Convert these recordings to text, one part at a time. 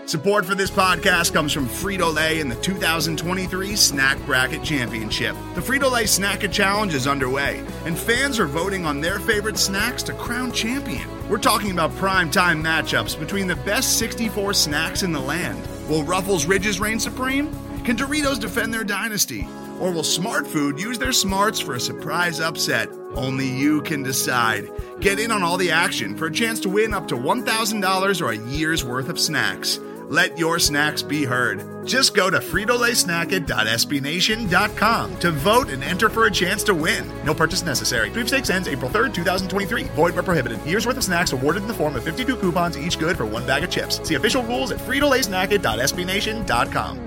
Support for this podcast comes from Frito-Lay and the 2023 Snack Bracket Championship. The Frito-Lay Snack-It Challenge is underway, and fans are voting on their favorite snacks to crown champion. We're talking about prime-time matchups between the best 64 snacks in the land. Will Ruffles Ridges reign supreme? Can Doritos defend their dynasty? Or will Smart Food use their smarts for a surprise upset? Only you can decide. Get in on all the action for a chance to win up to $1,000 or a year's worth of snacks. Let your snacks be heard. Just go to fritolaysnacket.sbnation.com to vote and enter for a chance to win. No purchase necessary. Sweepstakes ends April 3rd, 2023. Void where prohibited. Year's worth of snacks awarded in the form of 52 coupons, each good for one bag of chips. See official rules at fritolaysnacket.sbnation.com.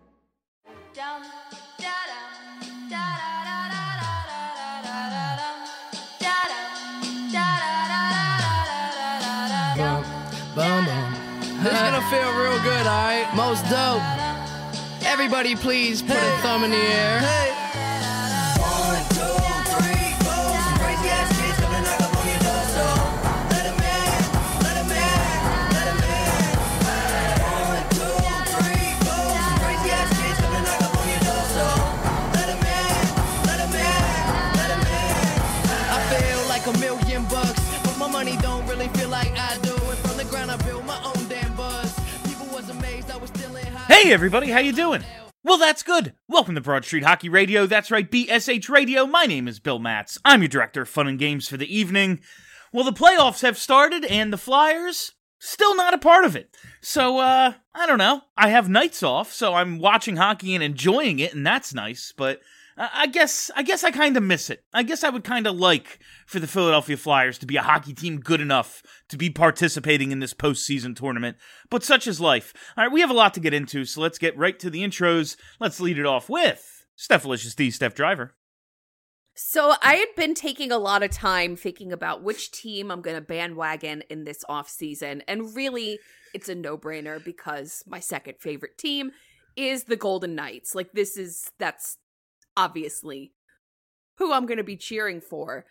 This is gonna feel real good, alright? Most dope. Everybody please put a thumb in the air. Hey. 1, 2, 3, 4. Some crazy ass kids come and knock up on your door, so let 'em in, let 'em in, let 'em in. 1, 2, 3, 4. Some crazy ass kids come and knock up on your door, so let 'em in, let 'em in, let 'em in. I feel like $1,000,000, but my money don't really feel like I do. And from the ground I build my own damn buzz. People was amazed I was still in high. Hey everybody, how you doing? Well, that's good. Welcome to Broad Street Hockey Radio. That's right, BSH Radio. My name is Bill Matz. I'm your director of fun and games for the evening. Well, the playoffs have started, and the Flyers still not a part of it. So, I don't know. I have nights off, so I'm watching hockey and enjoying it, and that's nice, but I guess I kind of miss it. I guess I would kind of like for the Philadelphia Flyers to be a hockey team good enough to be participating in this postseason tournament, but such is life. All right, we have a lot to get into, so let's get right to the intros. Let's lead it off with Stephalicious D, Steph Driver. So I had been taking a lot of time thinking about which team I'm going to bandwagon in this offseason, and really, it's a no-brainer because my second favorite team is the Golden Knights. Like, that's obviously who I'm going to be cheering for.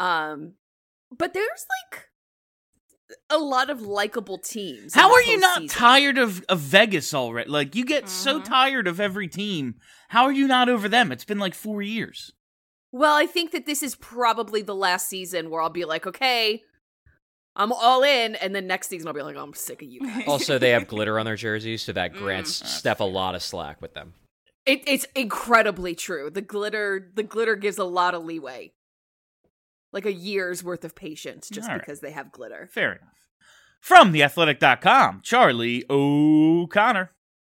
But there's like a lot of likable teams. How are you not tired of Vegas already? Like, you get so tired of every team. How are you not over them? It's been like 4 years. Well, I think that this is probably the last season where I'll be like, okay, I'm all in, and then next season I'll be like, oh, I'm sick of you guys. Also, they have glitter on their jerseys, so that grants Steph a lot of slack with them. It's incredibly true. The glitter gives a lot of leeway. Like a year's worth of patience just because they have glitter. Fair enough. From theathletic.com, Charlie O'Connor.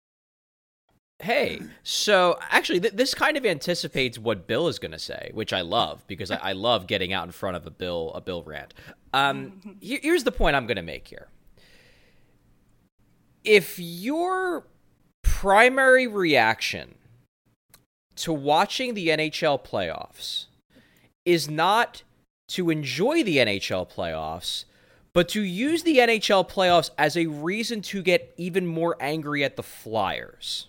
Hey, so actually this kind of anticipates what Bill is going to say, which I love because I love getting out in front of a Bill rant. Here's the point I'm going to make here. If your primary reaction to watching the NHL playoffs is not to enjoy the NHL playoffs, but to use the NHL playoffs as a reason to get even more angry at the Flyers.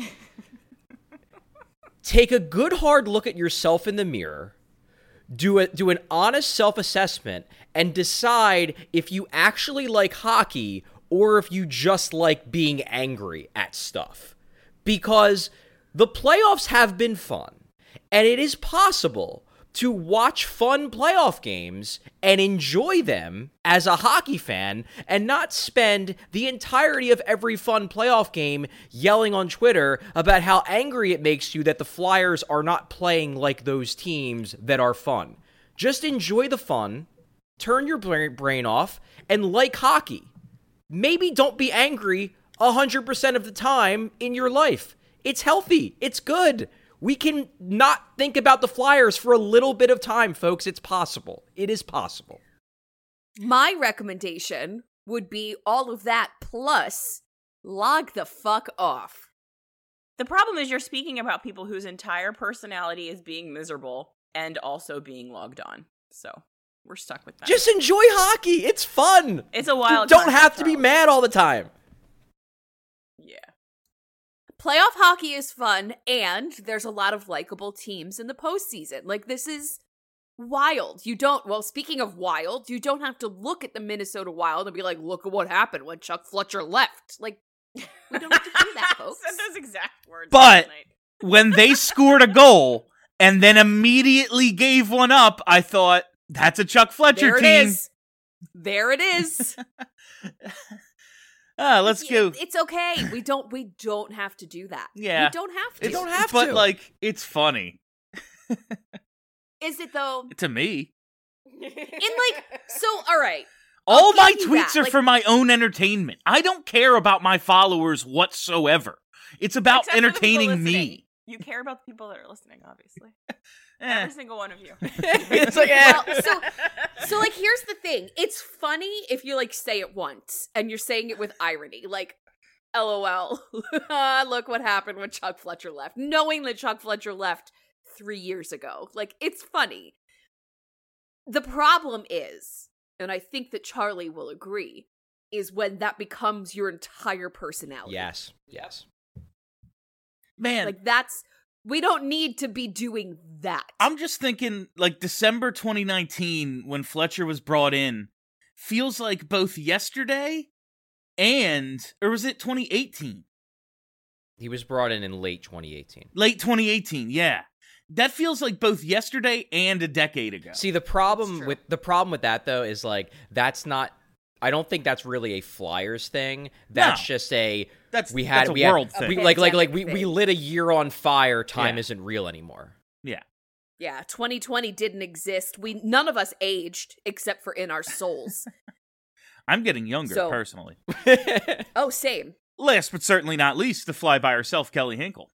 Take a good hard look at yourself in the mirror, do an honest self-assessment, and decide if you actually like hockey or if you just like being angry at stuff. Because the playoffs have been fun, and it is possible to watch fun playoff games and enjoy them as a hockey fan and not spend the entirety of every fun playoff game yelling on Twitter about how angry it makes you that the Flyers are not playing like those teams that are fun. Just enjoy the fun, turn your brain off, and like hockey. Maybe don't be angry 100% of the time in your life. It's healthy. It's good. We can not think about the Flyers for a little bit of time, folks. It's possible. It is possible. My recommendation would be all of that plus log the fuck off. The problem is you're speaking about people whose entire personality is being miserable and also being logged on. So we're stuck with that. Just enjoy hockey. It's fun. It's a wild. You don't have to be mad all the time. Yeah. Playoff hockey is fun, and there's a lot of likable teams in the postseason. Like, this is wild. Speaking of wild, you don't have to look at the Minnesota Wild and be like, look at what happened when Chuck Fletcher left. Like, We don't have to do that, folks. Said those exact words. But- last night. When they scored a goal and then immediately gave one up, I thought, that's a Chuck Fletcher There it team. is. There it is. Let's go. It's okay. We don't have to do that. Yeah. We don't have to. You don't have But, to. like, it's funny. Is it though? To me. All right. All my give you tweets that, are like- for my own entertainment. I don't care about my followers whatsoever. It's about Except for the people entertaining me. listening. You care about the people that are listening, obviously. Eh. Every single one of you. It's like, Well, so like here's the thing. It's funny if you like say it once and you're saying it with irony. Like, LOL. Look what happened when Chuck Fletcher left. Knowing that Chuck Fletcher left 3 years ago. Like, it's funny. The problem is, and I think that Charlie will agree, is when that becomes your entire personality. yes. Man, Like, we don't need to be doing that. I'm just thinking, like, December 2019, when Fletcher was brought in, feels like both yesterday or was it 2018? He was brought in late 2018. Late 2018, yeah. That feels like both yesterday and a decade ago. See, the That's problem true. with that though is like that's not. I don't think that's really a Flyers thing. That's No. just a That's we had a we had- world thing. we, A like we pandemic lit a year on fire. Time Yeah. isn't real anymore. Yeah. Yeah, 2020 didn't exist. None of us aged except for in our souls. I'm getting younger, So- personally. Oh, same. Last but certainly not least, the fly by herself, Kelly Hinkle.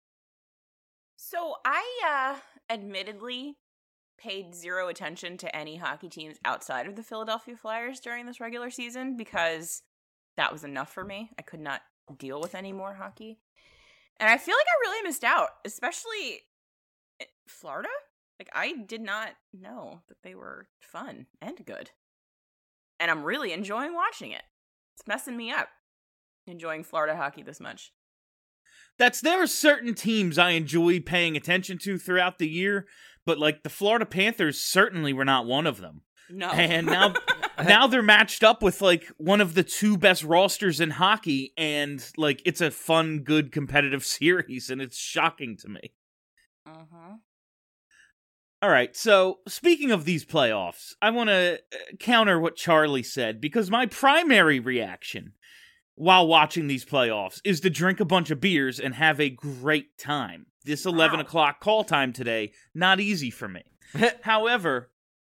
So I admittedly paid zero attention to any hockey teams outside of the Philadelphia Flyers during this regular season because that was enough for me. I could not deal with any more hockey. And I feel like I really missed out, especially Florida. Like, I did not know that they were fun and good. And I'm really enjoying watching it. It's messing me up, enjoying Florida hockey this much. There are certain teams I enjoy paying attention to throughout the year, but like the Florida Panthers certainly were not one of them. No. And now they're matched up with like one of the two best rosters in hockey, and like it's a fun, good, competitive series, and it's shocking to me. Uh-huh. All right, so speaking of these playoffs, I want to counter what Charlie said, because my primary reaction while watching these playoffs is to drink a bunch of beers and have a great time. This 11 o'clock call time today, not easy for me. However,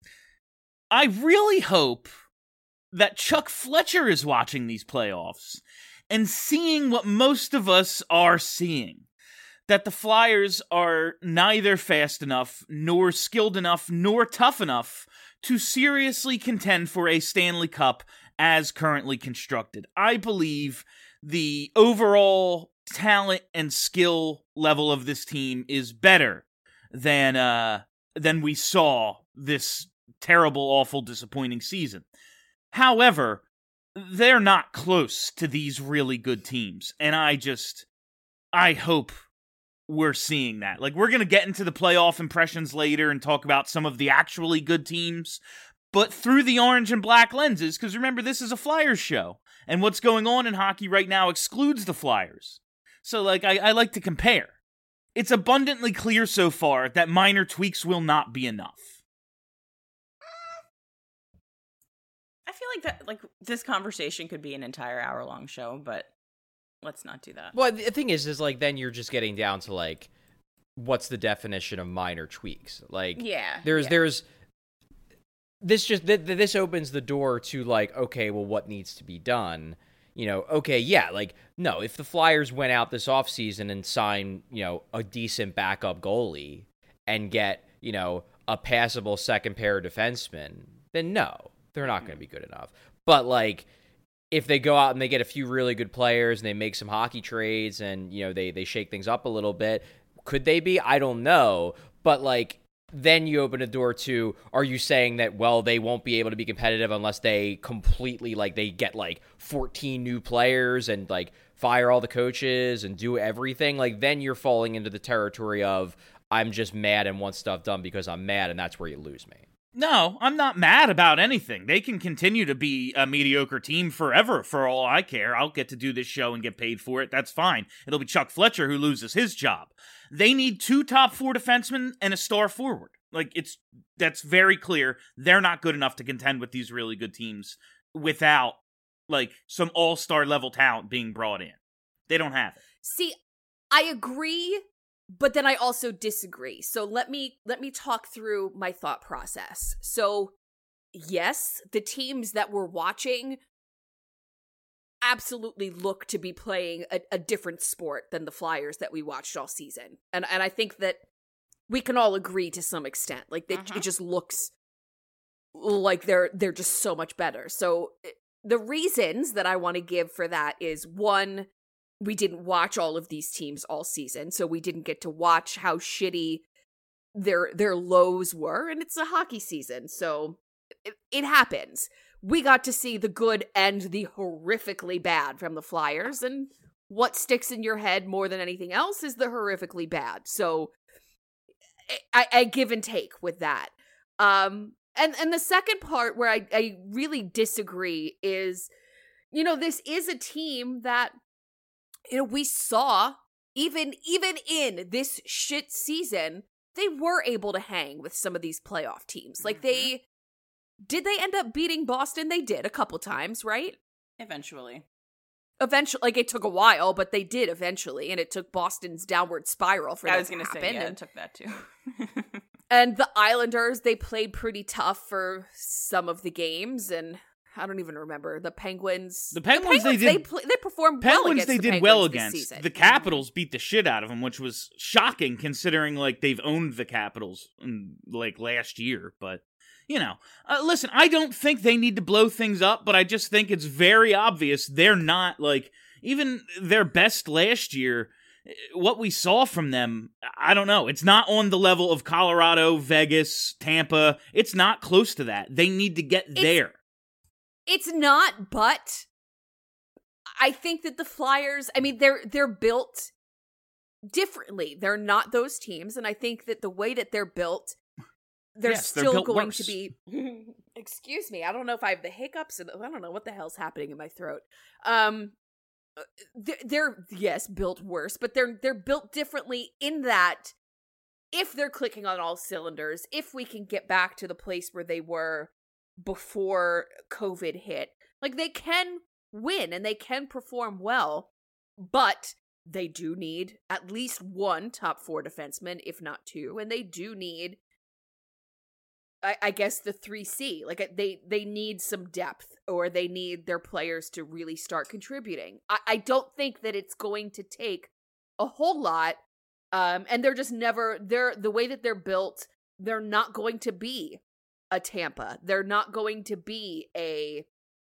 I really hope that Chuck Fletcher is watching these playoffs and seeing what most of us are seeing. That the Flyers are neither fast enough, nor skilled enough, nor tough enough to seriously contend for a Stanley Cup as currently constructed. I believe the overall talent and skill level of this team is better than we saw this terrible, awful, disappointing season. However, they're not close to these really good teams, and I hope we're seeing that. Like, we're going to get into the playoff impressions later and talk about some of the actually good teams, but through the orange and black lenses, because remember, this is a Flyers show, and what's going on in hockey right now excludes the Flyers. So, like, I like to compare. It's abundantly clear so far that minor tweaks will not be enough. I feel like that, like, this conversation could be an entire hour-long show, but let's not do that. Well, the thing is like then you're just getting down to like, what's the definition of minor tweaks? Like, Yeah. there's this opens the door to like, okay, well, what needs to be done? You know, okay, yeah, like, no, if the Flyers went out this offseason and signed, you know, a decent backup goalie and get, you know, a passable second pair of defensemen, then no, they're not going to be good enough. But like, if they go out and they get a few really good players and they make some hockey trades and, you know, they shake things up a little bit, could they be? I don't know. But like, then you open a door to, are you saying that, well, they won't be able to be competitive unless they completely, like, they get like 14 new players and like fire all the coaches and do everything? Like, then you're falling into the territory of, I'm just mad and want stuff done because I'm mad, and that's where you lose me. No, I'm not mad about anything. They can continue to be a mediocre team forever, for all I care. I'll get to do this show and get paid for it. That's fine. It'll be Chuck Fletcher who loses his job. They need 2 top 4 defensemen and a star forward. That's very clear. They're not good enough to contend with these really good teams without, some all-star level talent being brought in. They don't have it. See, I agree, but then I also disagree. So let me talk through my thought process. So, yes, the teams that we're watching absolutely look to be playing a different sport than the Flyers that we watched all season. And I think that we can all agree to some extent. It just looks like they're just so much better. So the reasons that I want to give for that is, one, we didn't watch all of these teams all season, so we didn't get to watch how shitty their lows were, and it's a hockey season, so it happens. We got to see the good and the horrifically bad from the Flyers, and what sticks in your head more than anything else is the horrifically bad. So I give and take with that. And the second part where I really disagree is, this is a team that, we saw, even in this shit season, they were able to hang with some of these playoff teams. Did they end up beating Boston? They did a couple times, right? Eventually, it took a while, but they did eventually, and it took Boston's downward spiral for that to happen. I was going to say, yeah, it took that too. And the Islanders, they played pretty tough for some of the games, and I don't even remember. The Penguins. They performed well against the Penguins this season. The Capitals beat the shit out of them, which was shocking considering they've owned the Capitals last year. But listen, I don't think they need to blow things up, but I just think it's very obvious they're not even their best last year. What we saw from them, I don't know. It's not on the level of Colorado, Vegas, Tampa. It's not close to that. They need to get there. It's not, but I think that the Flyers, they're built differently. They're not those teams, and I think that the way that they're built, they're still going worse. To be. Excuse me, I don't know if I have the hiccups. I don't know what the hell's happening in my throat. They're built worse, but they're built differently in that if they're clicking on all cylinders, if we can get back to the place where they were before COVID hit, they can win and they can perform well, but they do need at least 1 top 4 defenseman, if not 2, and they do need, I guess, the 3C. They need some depth, or they need their players to really start contributing. I don't think that it's going to take a whole lot, and they're just never, the way that they're built, they're not going to be a Tampa. They're not going to be a,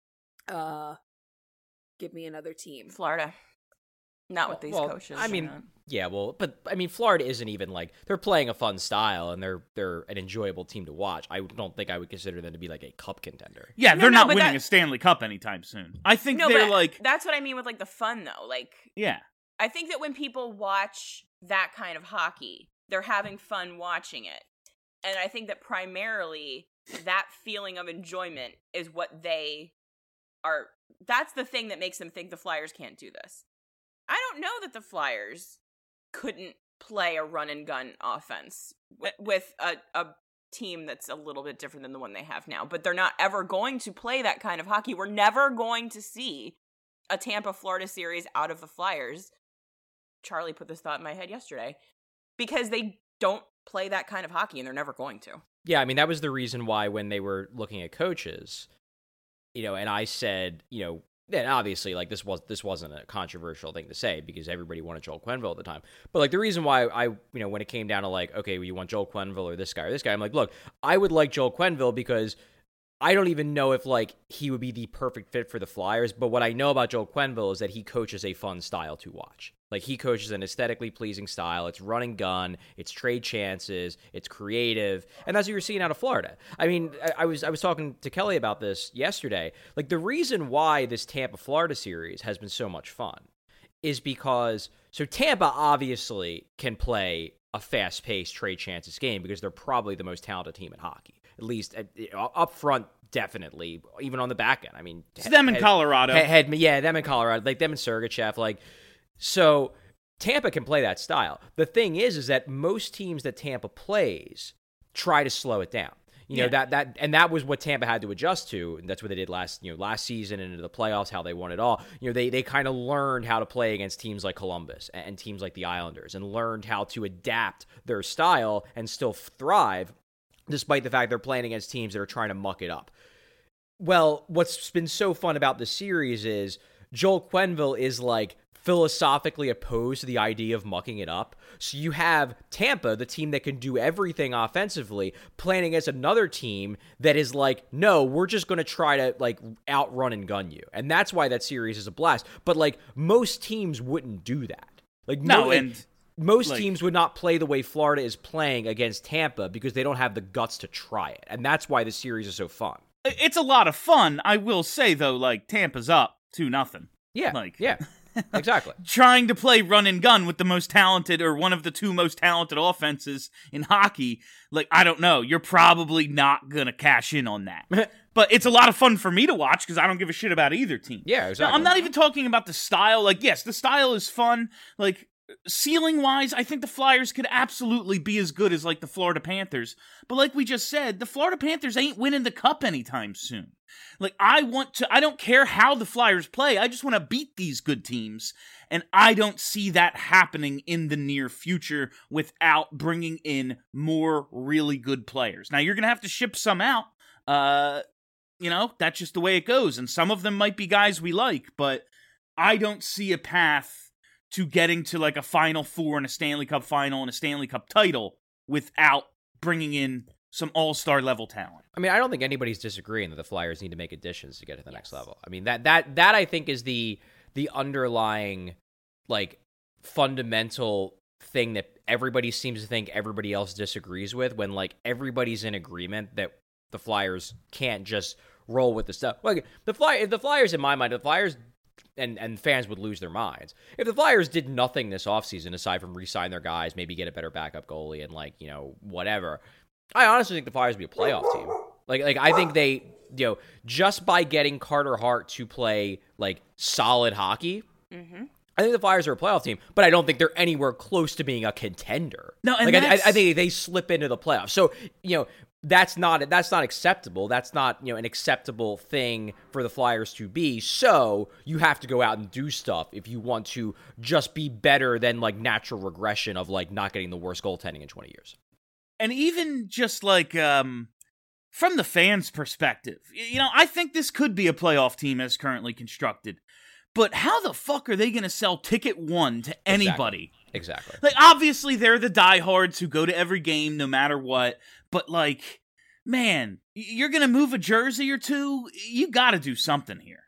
give me another team. Florida. Not with these coaches. Florida isn't even they're playing a fun style and they're an enjoyable team to watch. I don't think I would consider them to be a cup contender. Yeah, they're not winning a Stanley Cup anytime soon. I think they're that's what I mean with the fun though. Yeah. I think that when people watch that kind of hockey, they're having fun watching it. And I think that primarily that feeling of enjoyment is what they are. That's the thing that makes them think the Flyers can't do this. I don't know that the Flyers couldn't play a run and gun offense with a team that's a little bit different than the one they have now, but they're not ever going to play that kind of hockey. We're never going to see a Tampa-Florida series out of the Flyers. Charlie put this thought in my head yesterday, because they don't play that kind of hockey and they're never going to. Yeah, that was the reason why when they were looking at coaches, and I said, and obviously, this wasn't a controversial thing to say because everybody wanted Joel Quenneville at the time. But the reason why I, when it came down to okay, well, you want Joel Quenneville or this guy, I'm look, I would like Joel Quenneville because I don't even know if he would be the perfect fit for the Flyers. But what I know about Joel Quenneville is that he coaches a fun style to watch. He coaches an aesthetically pleasing style. It's run and gun. It's trade chances. It's creative. And that's what you're seeing out of Florida. I was talking to Kelly about this yesterday. The reason why this Tampa-Florida series has been so much fun is because, Tampa obviously can play a fast-paced trade chances game because they're probably the most talented team in hockey. at least up front, definitely, even on the back end. I mean, it's them in Colorado. Them in Colorado, like them in Sergachev, like so. Tampa can play that style. The thing is that most teams that Tampa plays try to slow it down. You know, that was what Tampa had to adjust to, and that's what they did last season and into the playoffs, how they won it all. You know, they kind of learned how to play against teams like Columbus and teams like the Islanders, and learned how to adapt their style and still thrive, despite the fact they're playing against teams that are trying to muck it up. Well, what's been so fun about the series is Joel Quenneville is like philosophically opposed to the idea of mucking it up. So you have Tampa, the team that can do everything offensively, playing against another team that is like, no, we're just going to try to like outrun and gun you. And that's why that series is a blast. But like most teams wouldn't do that. Like most teams would not play the way Florida is playing against Tampa because they don't have the guts to try it. And that's why the series is so fun. It's a lot of fun. I will say though, like Tampa's up 2-0. Yeah. Exactly. Trying to play run and gun with the most talented or one of the two most talented offenses in hockey, like, I don't know. You're probably not going to cash in on that. But it's a lot of fun for me to watch because I don't give a shit about either team. Yeah, exactly. Now, I'm not even talking about the style. Like, yes, the style is fun. Like, ceiling-wise, I think the Flyers could absolutely be as good as, like, the Florida Panthers. But like we just said, the Florida Panthers ain't winning the cup anytime soon. Like, I don't care how the Flyers play, I just want to beat these good teams. And I don't see that happening in the near future without bringing in more really good players. Now, you're going to have to ship some out. That's just the way it goes. And some of them might be guys we like, but I don't see a path to getting to like a Final Four and a Stanley Cup final and a Stanley Cup title without bringing in some all-star level talent. I mean, I don't think anybody's disagreeing that the Flyers need to make additions to get to the next level. I mean, that I think is the underlying, like, fundamental thing that everybody seems to think everybody else disagrees with, when, like, everybody's in agreement that the Flyers can't just roll with the stuff. Like, the Flyers, in my mind, the Flyers and fans would lose their minds if the Flyers did nothing this offseason aside from re-sign their guys, maybe get a better backup goalie and, like, whatever. I honestly think the Flyers would be a playoff team. Like I think they, just by getting Carter Hart to play, like, solid hockey, I think the Flyers are a playoff team, but I don't think they're anywhere close to being a contender. No, and like, I think they slip into the playoffs. So, that's not acceptable. That's not, an acceptable thing for the Flyers to be. So you have to go out and do stuff if you want to just be better than, like, natural regression of, like, not getting the worst goaltending in 20 years. And even just like from the fans' perspective, I think this could be a playoff team as currently constructed. But how the fuck are they going to sell ticket one to anybody? Exactly. Like, obviously, they're the diehards who go to every game no matter what. But, like, man, you're going to move a jersey or two? You got to do something here.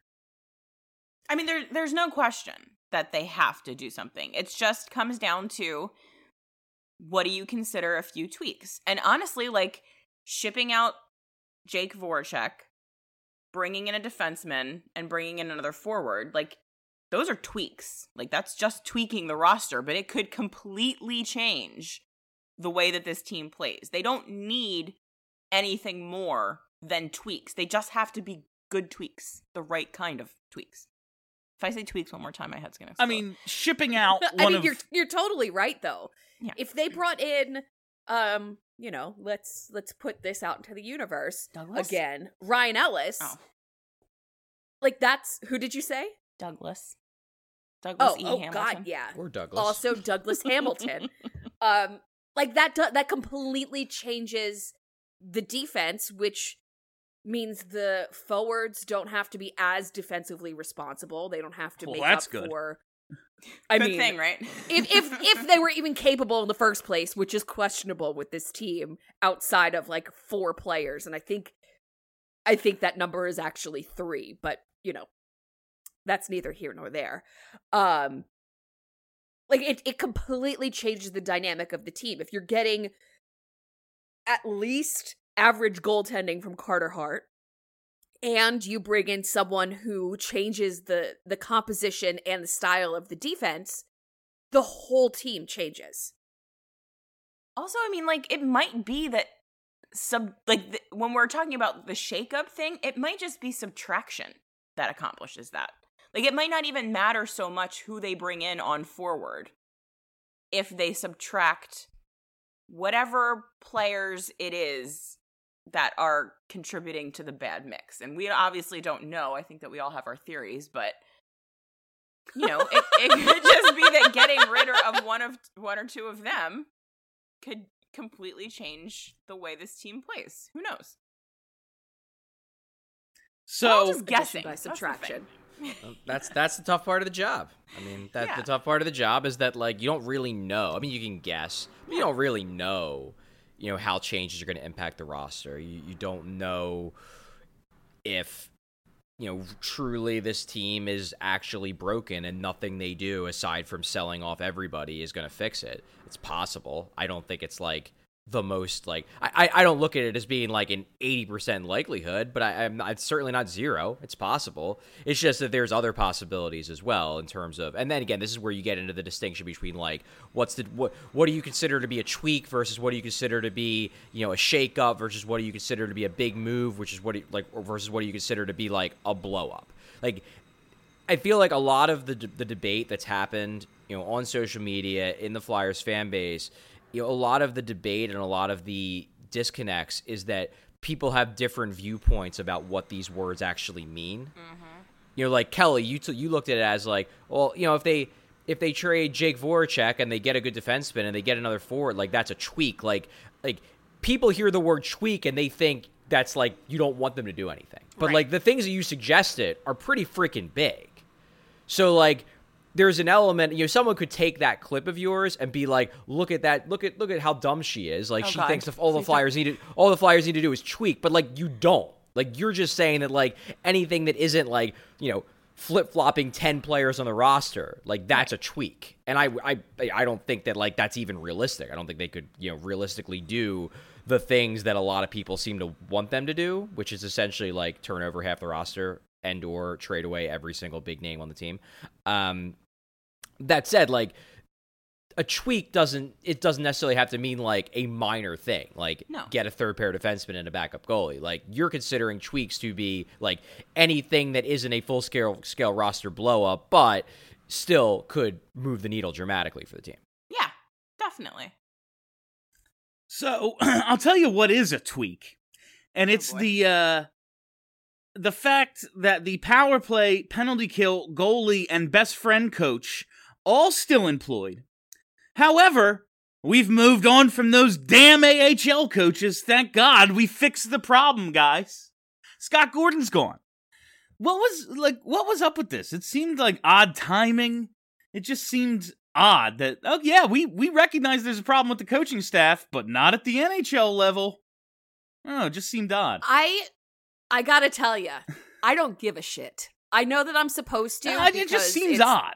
I mean, there's no question that they have to do something. It just comes down to, what do you consider a few tweaks? And honestly, like, shipping out Jake Voracek, bringing in a defenseman, and bringing in another forward, like, those are tweaks. Like, that's just tweaking the roster, but it could completely change the way that this team plays. They don't need anything more than tweaks. They just have to be good tweaks, the right kind of tweaks. If I say tweaks one more time, my head's gonna explode. I mean, shipping out you're totally right, though. Yeah. If they brought in, let's put this out into the universe. Douglas? Again. Ryan Ellis. Oh. Like, that's, who did you say? Douglas Hamilton. God, yeah. Or Douglas. Also Douglas Hamilton. Like, that completely changes the defense, which means the forwards don't have to be as defensively responsible. They don't have to make up for. Good thing, right? if they were even capable in the first place, which is questionable with this team outside of, like, 4 players, and I think that number is actually 3, but that's neither here nor there. Like, it completely changes the dynamic of the team. If you're getting at least average goaltending from Carter Hart, and you bring in someone who changes the composition and the style of the defense, the whole team changes. Also, I mean, like, it might be that when we're talking about the shakeup thing, it might just be subtraction that accomplishes that. Like, it might not even matter so much who they bring in on forward if they subtract whatever players it is that are contributing to the bad mix. And we obviously don't know. I think that we all have our theories, but you know, it could just be that getting rid of one or two of them could completely change the way this team plays. Who knows? So Just guessing by subtraction. That's the tough part of the job. I mean, the tough part of the job is that, like, you don't really know. I mean, you can guess, but you don't really know, you know, how changes are going to impact the roster. You don't know if, you know, truly this team is actually broken and nothing they do aside from selling off everybody is going to fix it. It's possible. I don't think it's like the most, like, I don't look at it as being like an 80% likelihood, but it's certainly not zero. It's possible. It's just that there's other possibilities as well in terms of, and then again, this is where you get into the distinction between, like, what do you consider to be a tweak versus what do you consider to be, you know, a shake up versus what do you consider to be a big move, which is versus what do you consider to be like a blow up. Like, I feel like a lot of the debate that's happened, you know, on social media, in the Flyers fan base, you know, a lot of the debate and a lot of the disconnects is that people have different viewpoints about what these words actually mean. Mm-hmm. You know, like Kelly, you looked at it as like, well, you know, if they trade Jake Voracek and they get a good defenseman and they get another forward, like, that's a tweak. Like people hear the word tweak and they think that's like you don't want them to do anything. But Right. like the things that you suggested are pretty freaking big. So like, there's an element, you know, someone could take that clip of yours and be like, look at that, look at how dumb she is. Like, she God. thinks all the Flyers need to do is tweak, but like, you don't. Like, you're just saying that, like, anything that isn't like, you know, flip-flopping 10 players on the roster, like, that's a tweak. And I don't think that, like, that's even realistic. I don't think they could, you know, realistically do the things that a lot of people seem to want them to do, which is essentially like turn over half the roster and or trade away every single big name on the team. That said, like, a tweak doesn't necessarily have to mean like a minor thing, like No. get a third pair defenseman and a backup goalie. Like, you're considering tweaks to be like anything that isn't a full scale roster blow up, but still could move the needle dramatically for the team. Yeah, definitely. So I'll tell you what is a tweak, and it's boy. the fact that the power play, penalty kill, goalie, and best friend coach all still employed. However, we've moved on from those damn AHL coaches. Thank God we fixed the problem, guys. Scott Gordon's gone. What was up with this? It seemed like odd timing. It just seemed odd that, oh yeah, we recognize there's a problem with the coaching staff, but not at the NHL level. Oh, it just seemed odd. I gotta tell you, I don't give a shit. I know that I'm supposed to. It just because seems it's- odd.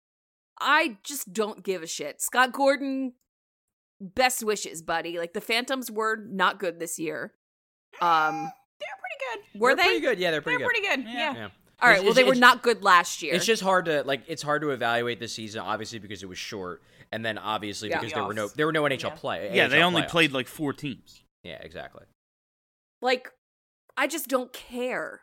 I just don't give a shit. Scott Gordon, best wishes, buddy. Like, the Phantoms were not good this year. They're pretty good. Were They're they? pretty good. Yeah, they're pretty They're good. pretty good. Yeah. Yeah. All right. Well, they were It's- not good last year. It's just hard to evaluate this season, obviously because it was short, and then obviously Yeah. because there were no NHL play. Yeah, they NHL only playoffs. played like 4 teams. Yeah, exactly. Like, I just don't care.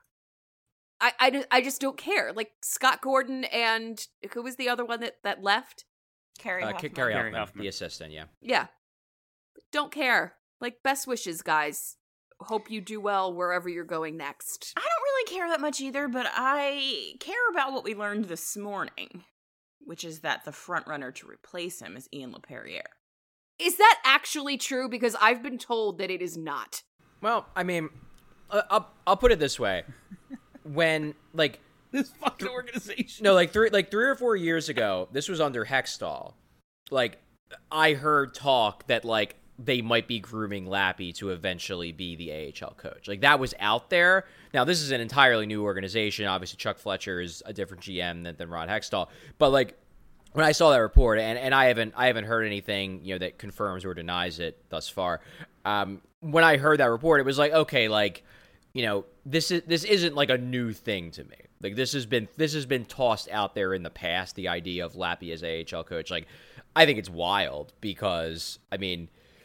I just don't care. Like, Scott Gordon and who was the other one that left? Carrie Hoffman. Carrie Carrie Hoffman, Hoffman. the assistant. Yeah. Yeah. Don't care. Like, best wishes, guys. Hope you do well wherever you're going next. I don't really care that much either, but I care about what we learned this morning, which is that the front runner to replace him is Ian LePerriere. Is that actually true? Because I've been told that it is not. Well, I mean, I'll put it this way: when like This fucking organization. no, like three or 4 years ago, this was under Hextall. Like, I heard talk that like they might be grooming Lappy to eventually be the AHL coach. Like, that was out there. Now, this is an entirely new organization. Obviously, Chuck Fletcher is a different GM than Rod Hextall. But like, when I saw that report, and I haven't heard anything, you know, that confirms or denies it thus far. When I heard that report, it was like, okay, like, you know, this isn't like a new thing to me. Like, this has been tossed out there in the past, the idea of Lappy as AHL coach. Like, I think it's wild because, I mean,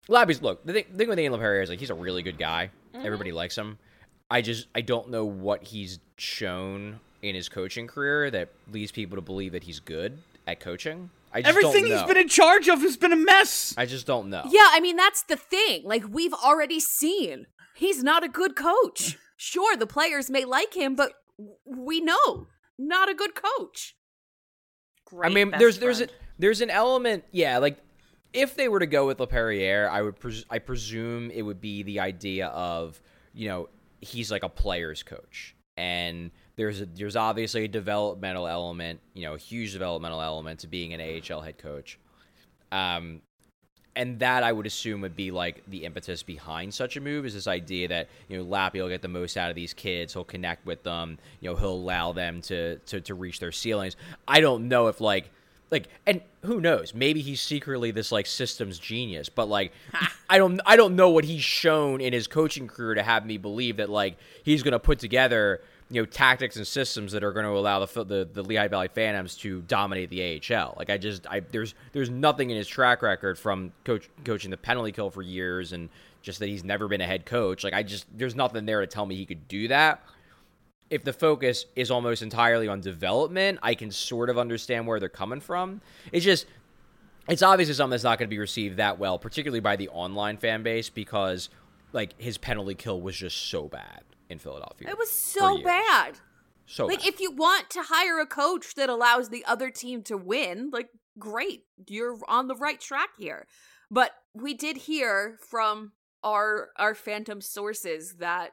Lappy's, look, the thing with Ian LaPerriere is, like, he's a really good guy. Everybody likes him. I don't know what he's shown in his coaching career that leads people to believe that he's good at coaching. I just Everything don't know. he's been in charge of has been a mess. I just don't know. Yeah, I mean, that's the thing. Like, we've already seen he's not a good coach. Sure, the players may like him, but we know not a good coach. Great I mean, best there's an element, yeah, like, if they were to go with LaPerriere, I presume it would be the idea of, you know, he's like a player's coach, and there's obviously a developmental element, you know, a huge developmental element to being an AHL head coach, and that I would assume would be like the impetus behind such a move, is this idea that, you know, Lappy will get the most out of these kids, he'll connect with them, you know, he'll allow them to reach their ceilings. I don't know if like, and who knows? Maybe he's secretly this like systems genius, but like, I don't know what he's shown in his coaching career to have me believe that like he's going to put together, you know, tactics and systems that are going to allow the Lehigh Valley Phantoms to dominate the AHL. Like, there's nothing in his track record from coaching the penalty kill for years, and just that he's never been a head coach. Like, there's nothing there to tell me he could do that. If the focus is almost entirely on development, I can sort of understand where they're coming from. It's obviously something that's not going to be received that well, particularly by the online fan base, because like his penalty kill was just so bad in Philadelphia. It was so bad. So like, bad. if you want to hire a coach that allows the other team to win, like, great, you're on the right track here. But we did hear from our Phantom sources that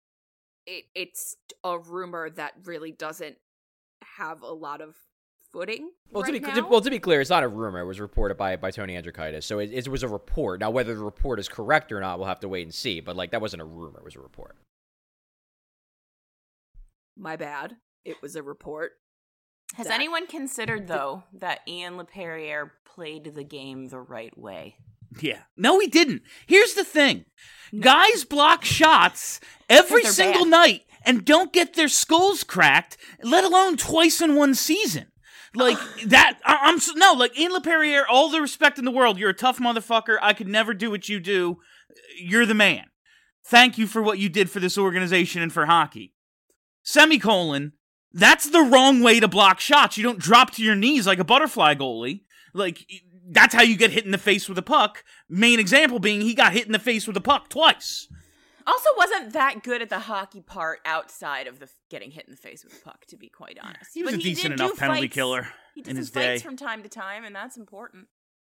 it's a rumor that really doesn't have a lot of footing. Well, right now. to be clear, it's not a rumor. It was reported by Tony Andrikaitis. So it was a report. Now, whether the report is correct or not, we'll have to wait and see. But like, that wasn't a rumor; it was a report. My bad. It was a report. Has anyone considered, though, that Ian LaPerriere played the game the right way? Yeah. No, he didn't. Here's the thing. Guys block shots every they're single bad. night and don't get their skulls cracked, let alone twice in one season. Like, that, like, Ian LaPerriere, all the respect in the world, you're a tough motherfucker, I could never do what you do, you're the man. Thank you for what you did for this organization and for hockey. Semicolon, that's the wrong way to block shots. You don't drop to your knees like a butterfly goalie. Like, that's how you get hit in the face with a puck. Main example being he got hit in the face with a puck twice. Also wasn't that good at the hockey part outside of the getting hit in the face with a puck, to be quite honest. He was But a decent did enough do penalty fights. killer He did in some his fights day. from time to time, and that's important.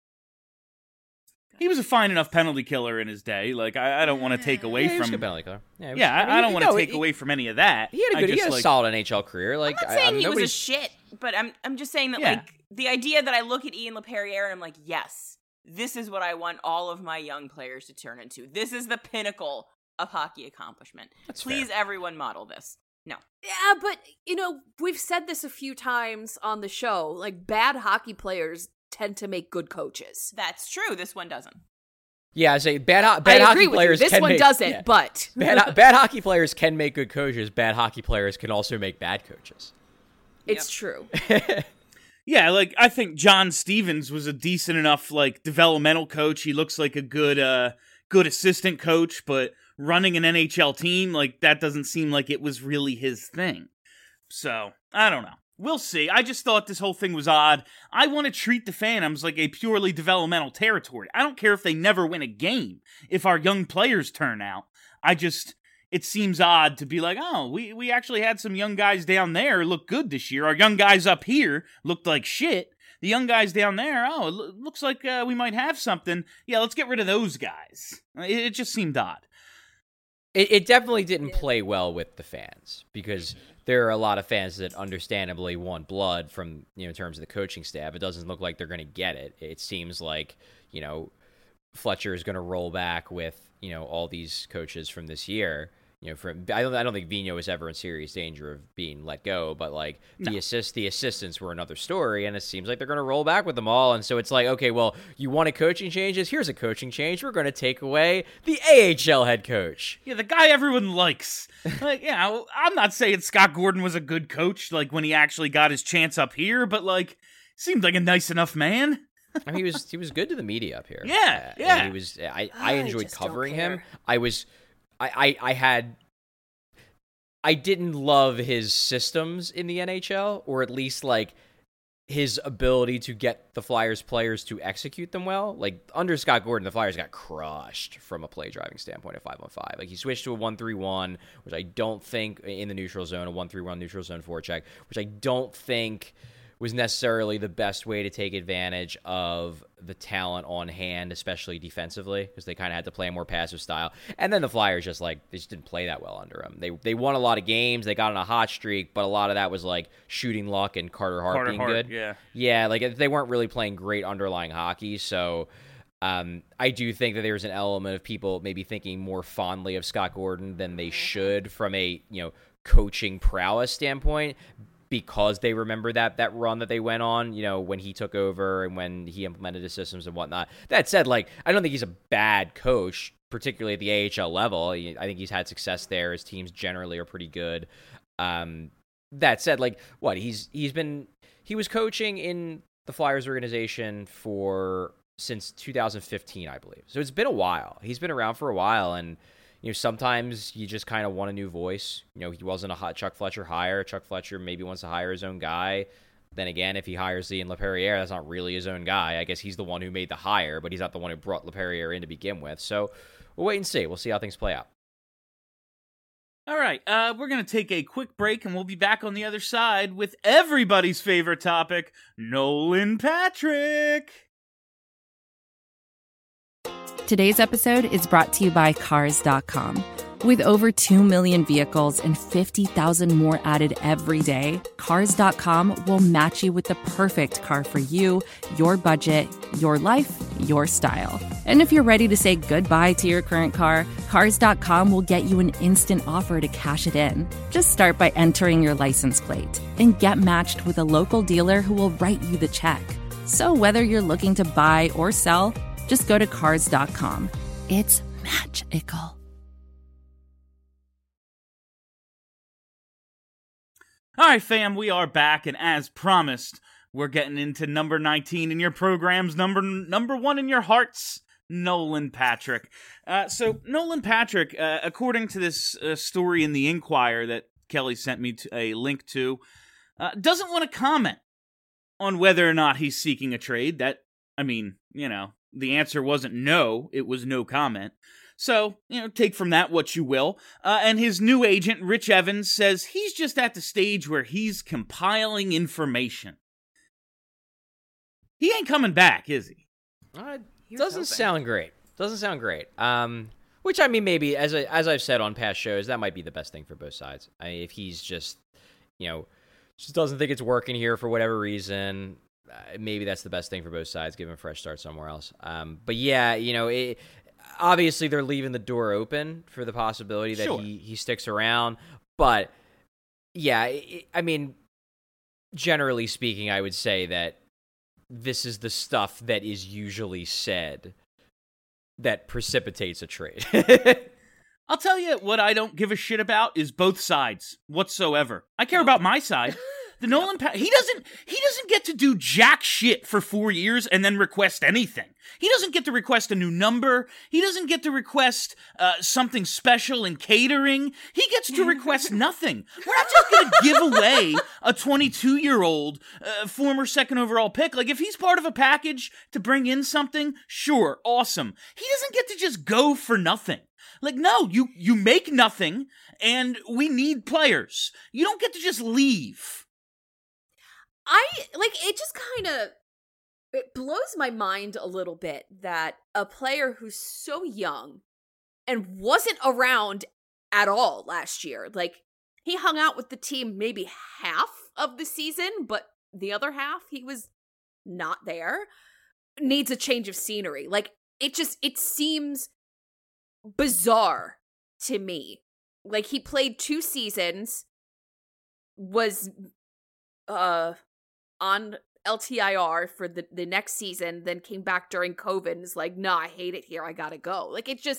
He was a fine enough penalty killer in his day. Like, I don't want to take away Yeah, he was a from... good penalty killer. I don't want to take away from any of that. He had a solid NHL career. Like, I'm not saying he was a nobody's- shit, but I'm just saying that, Yeah. like, the idea that I look at Ian LaPerriere and I'm like, yes, this is what I want all of my young players to turn into. This is the pinnacle of hockey accomplishment. That's Please, fair. everyone, model this. No. Yeah, but, you know, we've said this a few times on the show. Like, bad hockey players tend to make good coaches. That's true. This one doesn't. Yeah, I say bad I hockey agree with you. players. This can one make, doesn't, yeah. but... Bad hockey players can make good coaches. Bad hockey players can also make bad coaches. It's true. Yeah, like, I think John Stevens was a decent enough, like, developmental coach. He looks like a good assistant coach, but running an NHL team, like, that doesn't seem like it was really his thing. So, I don't know. We'll see. I just thought this whole thing was odd. I want to treat the Phantoms like a purely developmental territory. I don't care if they never win a game, if our young players turn out. It seems odd to be like, oh, we actually had some young guys down there look good this year. Our young guys up here looked like shit. The young guys down there, oh, it looks like we might have something. Yeah, let's get rid of those guys. It just seemed odd. It definitely didn't play well with the fans, because there are a lot of fans that understandably want blood from, in terms of the coaching staff. It doesn't look like they're going to get it. It seems like, Fletcher is going to roll back with, all these coaches from this year. I don't think Vigneault was ever in serious danger of being let go, but like the assistants were another story, and it seems like they're going to roll back with them all. And so it's like, okay, well, you wanted coaching changes? Here's a coaching change. We're going to take away the AHL head coach. Yeah, the guy everyone likes. Like, yeah, I'm not saying Scott Gordon was a good coach, like when he actually got his chance up here, but like, seemed like a nice enough man. I mean, he was good to the media up here. Yeah, And yeah. he was. I enjoyed just don't covering care. him. I didn't love his systems in the NHL, or at least like his ability to get the Flyers players to execute them well. Like under Scott Gordon, the Flyers got crushed from a play driving standpoint at 5-on-5. Like he switched to a 1-3-1, which I don't think in the neutral zone, a 1-3-1 neutral zone forecheck, which I don't think was necessarily the best way to take advantage of the talent on hand, especially defensively, because they kind of had to play a more passive style. And then the Flyers they just didn't play that well under him. They won a lot of games, they got on a hot streak, but a lot of that was like shooting luck and Carter Hart being good. Yeah, like they weren't really playing great underlying hockey, so I do think that there's an element of people maybe thinking more fondly of Scott Gordon than they should from a, coaching prowess standpoint, because they remember that run that they went on, when he took over and when he implemented his systems and whatnot. That said, I don't think he's a bad coach, particularly at the AHL level. I think he's had success there. His teams generally are pretty good. That said, he was coaching in the Flyers organization since 2015, I believe. So it's been a while. He's been around for a while, and sometimes you just kind of want a new voice. He wasn't a hot Chuck Fletcher hire. Chuck Fletcher maybe wants to hire his own guy. Then again, if he hires Ian LaPerriere, that's not really his own guy. I guess he's the one who made the hire, but he's not the one who brought LaPerriere in to begin with. So we'll wait and see. We'll see how things play out. All right, we're going to take a quick break, and we'll be back on the other side with everybody's favorite topic, Nolan Patrick. Today's episode is brought to you by Cars.com. With over 2 million vehicles and 50,000 more added every day, Cars.com will match you with the perfect car for you, your budget, your life, your style. And if you're ready to say goodbye to your current car, Cars.com will get you an instant offer to cash it in. Just start by entering your license plate and get matched with a local dealer who will write you the check. So whether you're looking to buy or sell, just go to Cars.com. It's magical. All right, fam, we are back, and as promised, we're getting into number 19 in your program's number one in your hearts, Nolan Patrick. So Nolan Patrick, according to this story in the Inquirer that Kelly sent me a link to, doesn't want to comment on whether or not he's seeking a trade. The answer wasn't no, it was no comment. So, take from that what you will. And his new agent, Rich Evans, says he's just at the stage where he's compiling information. He ain't coming back, is he? Doesn't sound great. Which, maybe, as I've said on past shows, that might be the best thing for both sides. If he's just, just doesn't think it's working here for whatever reason, maybe that's the best thing for both sides, give him a fresh start somewhere else. But yeah, obviously they're leaving the door open for the possibility that he sticks around. But yeah, generally speaking, I would say that this is the stuff that is usually said that precipitates a trade. I'll tell you what I don't give a shit about is both sides whatsoever. I care about my side. The Nolan he doesn't get to do jack shit for 4 years and then request anything. He doesn't get to request a new number. He doesn't get to request something special in catering. He gets to request nothing. We're not just going to give away a 22-year-old former second overall pick. Like, if he's part of a package to bring in something, sure, awesome. He doesn't get to just go for nothing. Like, no, you make nothing, and we need players. You don't get to just leave. It just kind of, it blows my mind a little bit that a player who's so young and wasn't around at all last year, he hung out with the team maybe half of the season, but the other half he was not there, needs a change of scenery. It seems bizarre to me. He played 2 seasons, was on LTIR for the next season, then came back during COVID and is like, nah, I hate it here, I gotta go.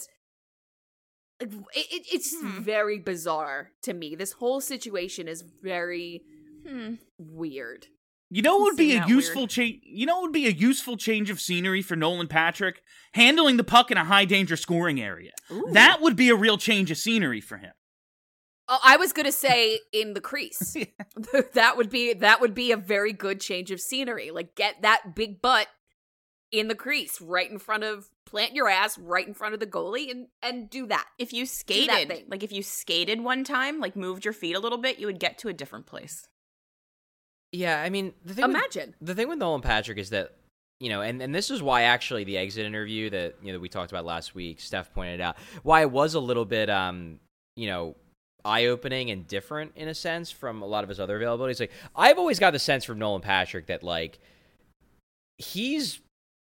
It's very bizarre to me. This whole situation is very weird. You know what would be Seem a that useful weird. change? You know what would be a useful change of scenery for Nolan Patrick? Handling the puck in a high danger scoring area. Ooh. That would be a real change of scenery for him. Oh, I was gonna say in the crease. that would be a very good change of scenery. Like, get that big butt in the crease, plant your ass right in front of the goalie, and do that. If you that skated, thing. like if you skated one time, like moved your feet a little bit, you would get to a different place. Yeah, I mean, the thing with Nolan Patrick is that, you know, and this is why actually the exit interview that, you know, that we talked about last week, Steph pointed out, why it was a little bit, you know, eye-opening and different in a sense from a lot of his other availabilities. Like, I've always got the sense from Nolan Patrick that, like, he's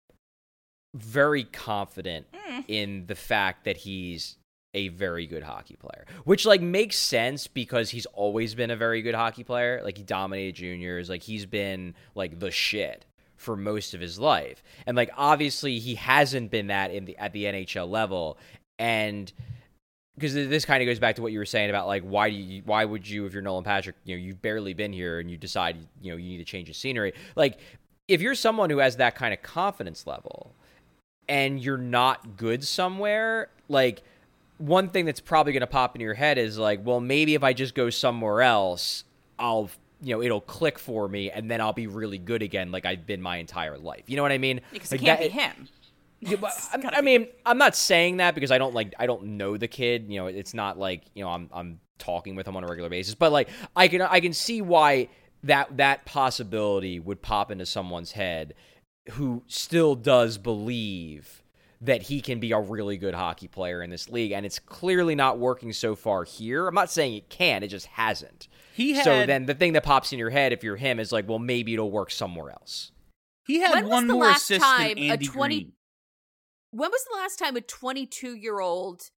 very confident in the fact that he's a very good hockey player, which, like, makes sense because he's always been a very good hockey player. Like, he dominated juniors. Like, he's been, like, the shit for most of his life. And, like, obviously he hasn't been that at the NHL level. And because this kind of goes back to what you were saying about, like, why would you, if you're Nolan Patrick, you know, you've barely been here and you decide, you know, you need to change the scenery. Like, if you're someone who has that kind of confidence level and you're not good somewhere, like, one thing that's probably going to pop into your head is like, well, maybe if I just go somewhere else, I'll, you know, it'll click for me and then I'll be really good again like I've been my entire life. You know what I mean? Because Like it can't that- be him. Yeah, but I mean, I'm not saying that because I don't know the kid. You know, it's not like, you know, I'm talking with him on a regular basis. But, like, I can see why that possibility would pop into someone's head who still does believe that he can be a really good hockey player in this league, and it's clearly not working so far here. I'm not saying it can, it just hasn't. So then the thing that pops in your head if you're him is like, well, maybe it'll work somewhere else. He had When was one the more last assist time than a Andy 20 Green. When was the last time a 22-year-old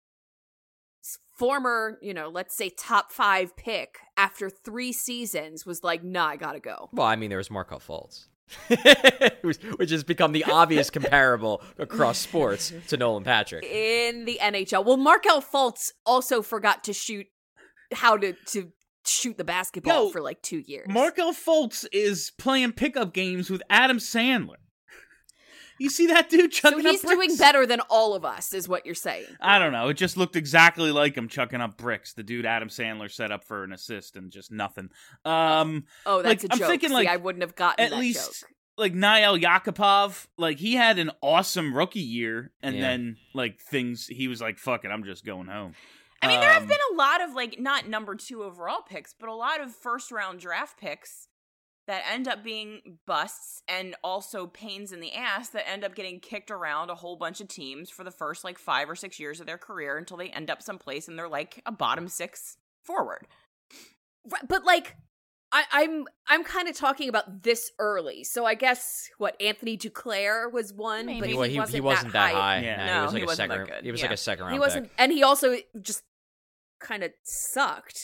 former, you know, let's say top 5 pick after 3 seasons was like, nah, I gotta go? Well, I mean, there was Markelle Fultz. which has become the obvious comparable across sports to Nolan Patrick. In the NHL. Well, Markelle Fultz also forgot to shoot shoot the basketball Yo, for like 2 years. Markelle Fultz is playing pickup games with Adam Sandler. You see that dude so chucking up he's bricks? doing better than all of us, is what you're saying. I don't know. It just looked exactly like him chucking up bricks. The dude Adam Sandler set up for an assist and just nothing. Oh, that's like, a I'm joke. thinking, See, like, I wouldn't have gotten at that least joke. like Nail Yakupov, like he had an awesome rookie year, and Yeah. then like he was like, "Fuck it, I'm just going home." I mean, there have been a lot of, like, not number 2 overall picks, but a lot of first-round draft picks that end up being busts and also pains in the ass that end up getting kicked around a whole bunch of teams for the first, like, 5 or 6 years of their career until they end up someplace and they're, like, a bottom 6 forward. Right, but like I'm kind of talking about this early. So I guess Anthony Duclair was one, Maybe. but Well, he wasn't that high. Yeah. Nah, No, he was like he a wasn't second. that good. He was Yeah. like a second round. He wasn't, pick. and he also just kind of sucked.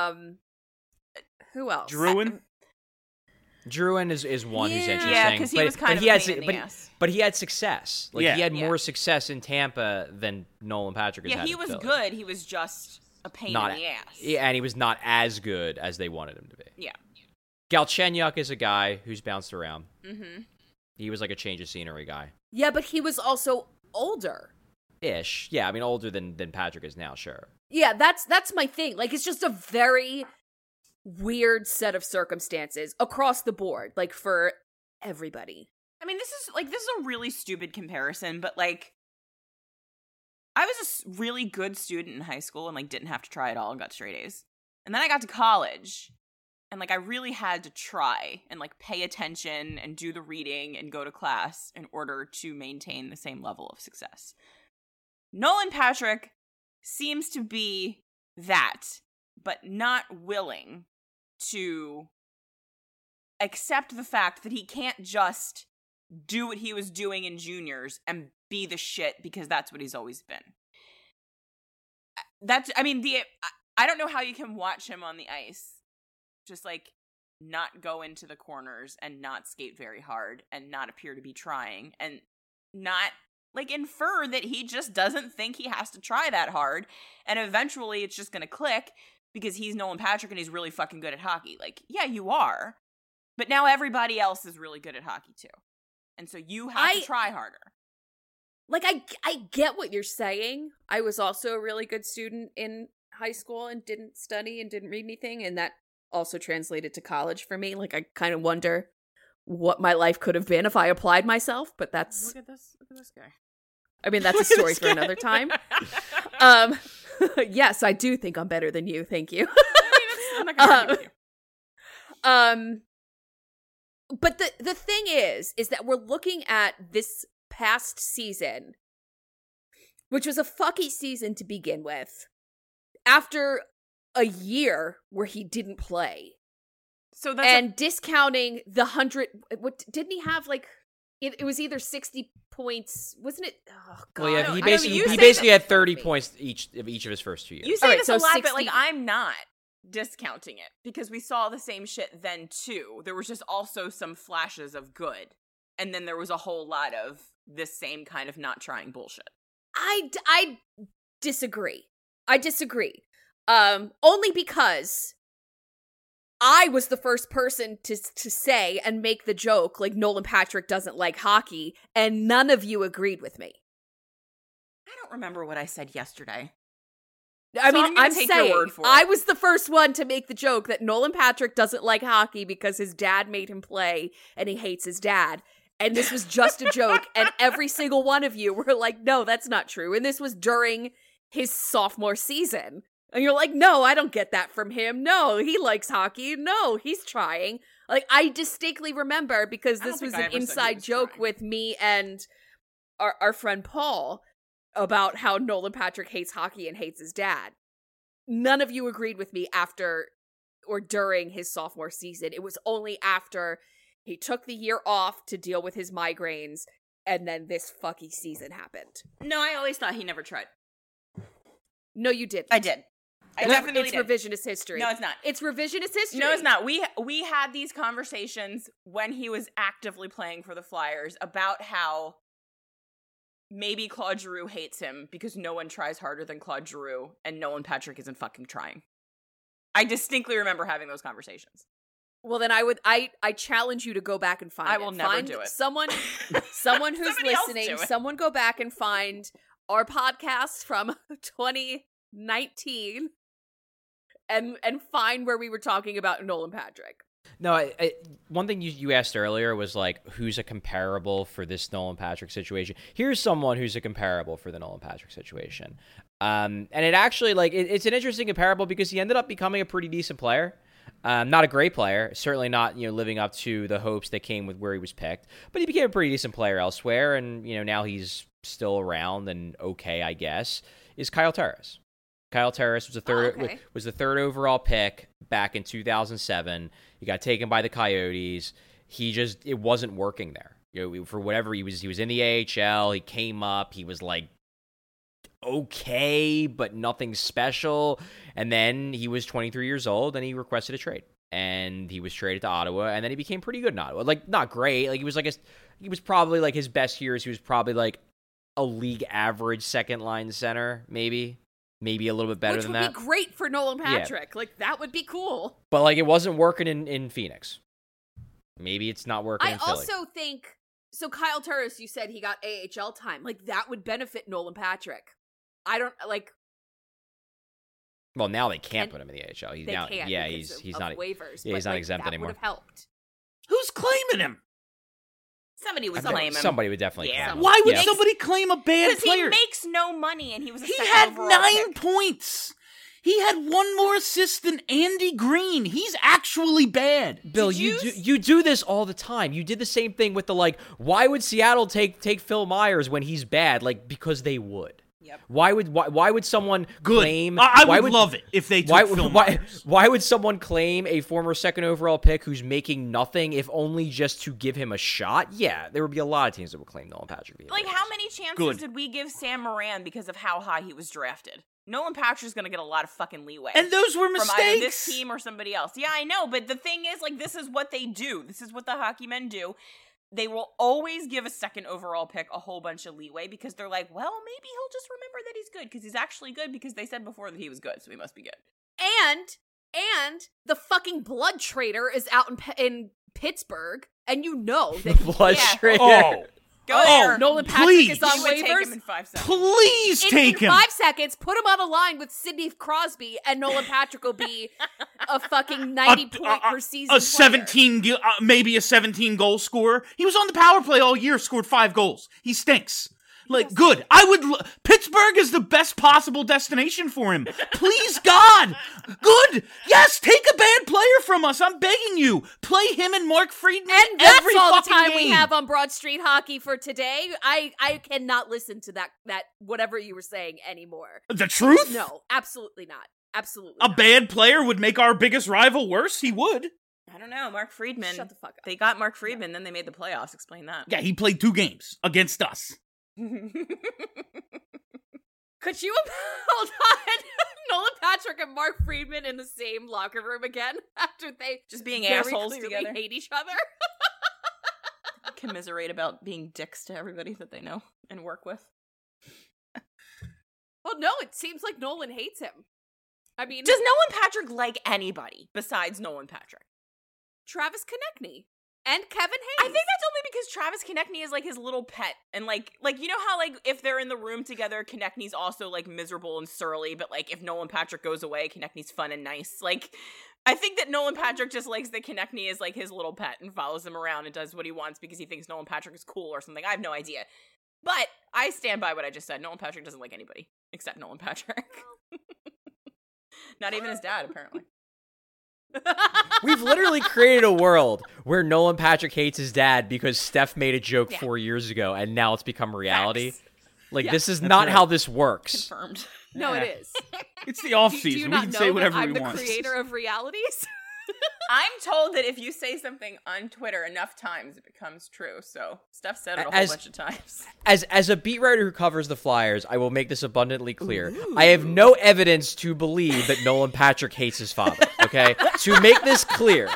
Who else? Druin. Druin is one who's Yeah. interesting. Yeah, because he was kind of a pain in the ass. But he had success. Like, Yeah. he had Yeah. more success in Tampa than Nolan Patrick has Yeah, had he in was Philly. good. He was just a pain Not in the ass. Yeah, and he was not as good as they wanted him to be. Yeah. Galchenyuk is a guy who's bounced around. Mm-hmm. He was like a change of scenery guy. Yeah, but he was also older. Ish. Yeah, I mean, older than Patrick is now, sure. Yeah, that's my thing. Like, it's just a very weird set of circumstances across the board, like for everybody. I mean, this is a really stupid comparison, but, like, I was a really good student in high school and, like, didn't have to try at all and got straight A's. And then I got to college and, like, I really had to try and, like, pay attention and do the reading and go to class in order to maintain the same level of success. Nolan Patrick seems to be that, but not willing to accept the fact that he can't just do what he was doing in juniors and be the shit because that's what he's always been. I don't know how you can watch him on the ice just, like, not go into the corners and not skate very hard and not appear to be trying and not, like, infer that he just doesn't think he has to try that hard and eventually it's just gonna click because he's Nolan Patrick and he's really fucking good at hockey. Like, yeah, you are. But now everybody else is really good at hockey too. And so you have to try harder. Like, I get what you're saying. I was also a really good student in high school and didn't study and didn't read anything, and that also translated to college for me. Like, I kind of wonder what my life could have been if I applied myself, but that's... Look at this guy. I mean, that's a story for another time. Yes, I do think I'm better than you. Thank you. I'm not gonna argue with you. But the thing is that we're looking at this past season, which was a fucky season to begin with, after a year where he didn't play. So that's and discounting the 100, what didn't he have, like, it was either 60 points, wasn't it? Oh god. Well, yeah, I he know, basically you say basically that- had 30 points each of his first 2 years. You say Alright, this so a lot, 60 but like I'm not discounting it because we saw the same shit then too. There was just also some flashes of good, and then there was a whole lot of this same kind of not trying bullshit. I disagree. Only because I was the first person to say and make the joke, like, Nolan Patrick doesn't like hockey, and none of you agreed with me. I don't remember what I said yesterday. I So mean, I'm gonna I'm take your saying word for it. I was the first one to make the joke that Nolan Patrick doesn't like hockey because his dad made him play and he hates his dad. And this was just a joke. And every single one of you were like, no, that's not true. And this was during his sophomore season. And you're like, no, I don't get that from him. No, he likes hockey. No, he's trying. Like, I distinctly remember, because I don't this was think I an ever said he inside was joke trying. with me and our friend Paul about how Nolan Patrick hates hockey and hates his dad. None of you agreed with me after or during his sophomore season. It was only after he took the year off to deal with his migraines, and then this fucky season happened. No, I always thought he never tried. No, you didn't. I did. I definitely It's did. revisionist history. No, it's not. It's revisionist history. No, it's not. We had these conversations when he was actively playing for the Flyers about how maybe Claude Giroux hates him because no one tries harder than Claude Giroux, and Nolan Patrick isn't fucking trying. I distinctly remember having those conversations. Well, then I challenge you to go back and find it. I will never Find do it. Someone who's Somebody else listening, do it. someone go back and find our podcast from 2019 and find where we were talking about Nolan Patrick. No, one thing you asked earlier was, like, who's a comparable for this Nolan Patrick situation. Here's someone who's a comparable for the Nolan Patrick situation. And it actually, like, it's an interesting comparable because he ended up becoming a pretty decent player. Not a great player, certainly not, living up to the hopes that came with where he was picked, but he became a pretty decent player elsewhere, and, now he's still around and okay, I guess, is Kyle Turris. Kyle Turris was the third overall pick back in 2007. He got taken by the Coyotes. It wasn't working there. For whatever he was in the AHL. He came up. He was like okay, but nothing special. And then he was 23 years old, and he requested a trade. And he was traded to Ottawa, and then he became pretty good in Ottawa. Like, not great. Like, he was probably like his best years. He was probably like a league average second line center, maybe a little bit better than that. Which would be great for Nolan Patrick. Yeah. Like, that would be cool. But, like, it wasn't working in Phoenix. Maybe it's not working in Philly. I also think, so Kyle Turris, you said he got AHL time. Like, that would benefit Nolan Patrick. I don't, like... Well, now they can't put him in the AHL. He's not waivers. Yeah, he's not exempt that anymore. Would have helped. Who's claiming him? Somebody would claim him. Somebody would definitely claim him. Why would somebody claim a bad Because player? he makes no money, and he was a He second had overall 9 pick. points. He had one more assist than Andy Green. He's actually bad. Bill, you do this all the time. You did the same thing with the, like, why would Seattle take Phil Myers when he's bad? Like, because they would. Yep. Why would someone claim? I would love it if they took Phil Myers. Why would someone claim a former second overall pick who's making nothing, if only just to give him a shot? Yeah, there would be a lot of teams that would claim Nolan Patrick. Like, how many chances did we give Sam Moran because of how high he was drafted? Nolan Patrick's going to get a lot of fucking leeway. And those were mistakes. From either this team or somebody else. Yeah, I know, but the thing is, like, this is what they do. This is what the hockey men do. They will always give a second overall pick a whole bunch of leeway because they're like, well, maybe he'll just remember that he's good because he's actually good because they said before that he was good, so he must be good. And the fucking blood trader is out in Pittsburgh, and you know that Frustrated. Oh, Go there. Nolan Patrick please. is on You would take him waivers. in 5 seconds. please take in him. 5 seconds, put him on a line with Sidney Crosby, and Nolan Patrick will be a fucking 90-point per season A player. 17, maybe a 17 goal scorer. He was on the power play all year, scored 5 goals. He stinks. Like, good. Pittsburgh is the best possible destination for him. Please, God. Good. Yes, take a bad player from us. I'm begging you. Play him and Mark Friedman And that's every all the fucking time game. we have on Broad Street Hockey for today. I cannot listen to that whatever you were saying anymore. The truth? No, absolutely not. Absolutely A not. bad player would make our biggest rival worse? He would. I don't know. Mark Friedman. Shut the fuck up. They got Mark Friedman, then they made the playoffs. Explain that. Yeah, he played 2 games against us. Could you hold on? Nolan Patrick and Mark Friedman in the same locker room again after they Just being very assholes clearly together. hate each other? Commiserate about being dicks to everybody that they know and work with. Well, no, it seems like Nolan hates him. I mean, Does Nolan Patrick like anybody besides Nolan Patrick? Travis Konechny and Kevin Hayes. I think that's only because Travis Konechny is like his little pet, and like you know how like if they're in the room together, Konechny's also like miserable and surly, but like if Nolan Patrick goes away, Konechny's fun and nice. Like I think that Nolan Patrick just likes that Konechny is like his little pet and follows him around and does what he wants because he thinks Nolan Patrick is cool or something. I have no idea, but I stand by what I just said. Nolan Patrick doesn't like anybody except Nolan Patrick. Not even his dad, apparently. We've literally created a world where Nolan Patrick hates his dad because Steph made a joke 4 years ago, and now it's become reality. Facts. Like, Yeah. this is not right. how this works. Confirmed. No, Yeah. it is. It's the off Do you season. We not can know say that whatever I'm we the want. creator of realities? I'm told that if you say something on Twitter enough times, it becomes true. So Steph said it a whole As- bunch of times. As a beat writer who covers the Flyers, I will make this abundantly clear. I have no evidence to believe that Nolan Patrick hates his father, okay? To make this clear.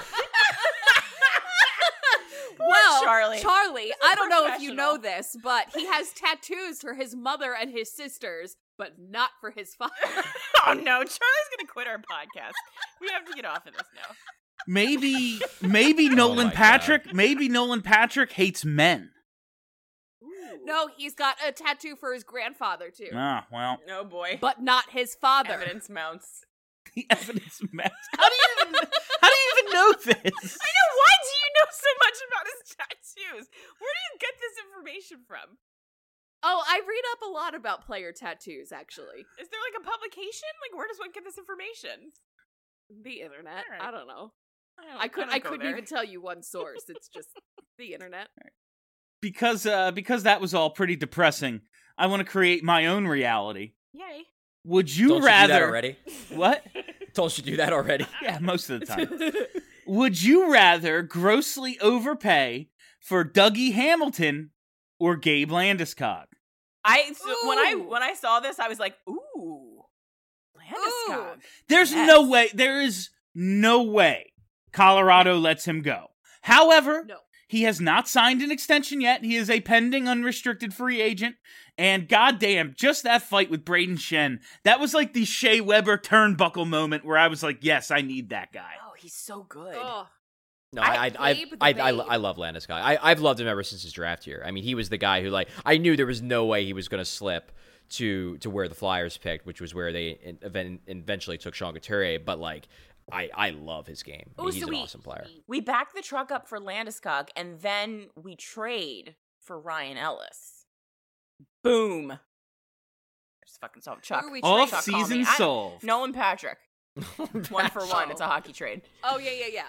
Well, Charlie. I don't know if you know professional. this, but he has tattoos for his mother and his sisters, but not for his father. Oh no, Charlie's gonna quit our podcast. We have to get off of this now. Maybe Oh Nolan my Patrick. Maybe Nolan Patrick hates men. No, he's got a tattoo for his grandfather too, Ah, well, Oh boy. but not his father. Evidence mounts. the evidence matches. How do you even know this? I know, why do you know so much about his tattoos? Where do you get this information from? Oh, I read up a lot about player tattoos, actually. Is there like a publication? Like where does one get this information? The internet. All right. I don't know. don't- I don't go couldn't there. even tell you one source. It's just the internet. Because that was all pretty depressing. I want to create my own reality. Yay. Would you Don't rather? you do that already? What? Don't you do that already? Yeah, most of the time. Would you rather grossly overpay for Dougie Hamilton or Gabe Landeskog? Ooh. When I saw this, I was like, ooh. Landeskog. There's Yes. no way. There is no way Colorado lets him go. However, No. he has not signed an extension yet. He is a pending unrestricted free agent. And goddamn, just that fight with Braden Shen, that was like the Shea Weber turnbuckle moment where I was like, yes, I need that guy. Oh, he's so good. Oh, No, Babe the I Babe. love Landeskog. I've loved him ever since his draft year. I mean, he was the guy who, like, I knew there was no way he was going to slip to where the Flyers picked, which was where they eventually took Sean Couturier. But, like, I love his game. I mean, Oh, he's so an we- awesome player. We back the truck up for Landeskog, and then we trade for Ryan Ellis. Boom. Just fucking solved Chuck. Who are we Off Chuck, call season me. solved. Nolan Patrick. 1 for 1. It's a hockey trade. oh yeah.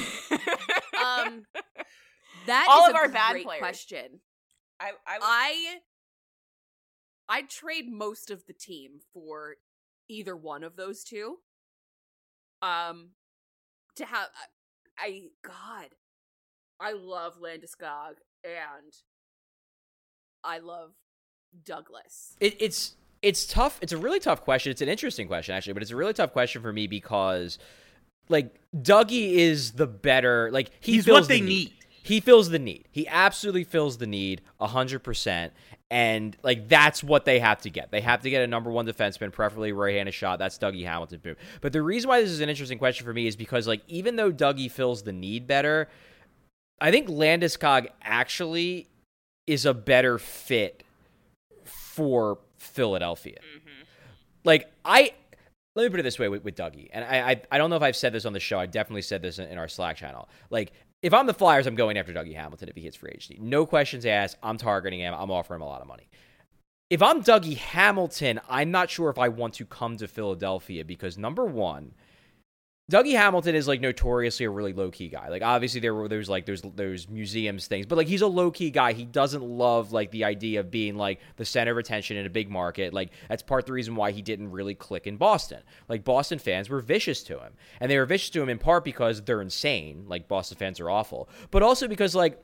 That All is of a our bad great players. question. I I'd trade most of the team for either one of those two. To have I love Landeskog and I love Douglas. It's tough. It's a really tough question. It's an interesting question, actually, but it's a really tough question for me because, like, Dougie is the better. Like, He's fills what they the need. He fills the need. He absolutely fills the need 100%. And, like, that's what they have to get. They have to get a number one defenseman, preferably right-handed shot. That's Dougie Hamilton. Boom. But the reason why this is an interesting question for me is because, like, even though Dougie fills the need better, I think Landeskog actually is a better fit for Philadelphia. Like, let me put it this way with Dougie, and I don't know if I've said this on the show. I definitely said this in our Slack channel. Like, if I'm the Flyers, I'm going after Dougie Hamilton if he hits free agency. No questions asked. I'm targeting him. I'm offering him a lot of money. If I'm Dougie Hamilton, I'm not sure if I want to come to Philadelphia because, number one, Dougie Hamilton is, like, notoriously a really low-key guy. Like, obviously, there's those museums things, but, like, he's a low-key guy. He doesn't love, like, the idea of being, like, the center of attention in a big market. Like, that's part of the reason why he didn't really click in Boston. Like, Boston fans were vicious to him. And they were vicious to him in part because they're insane. Like, Boston fans are awful. But also because, like,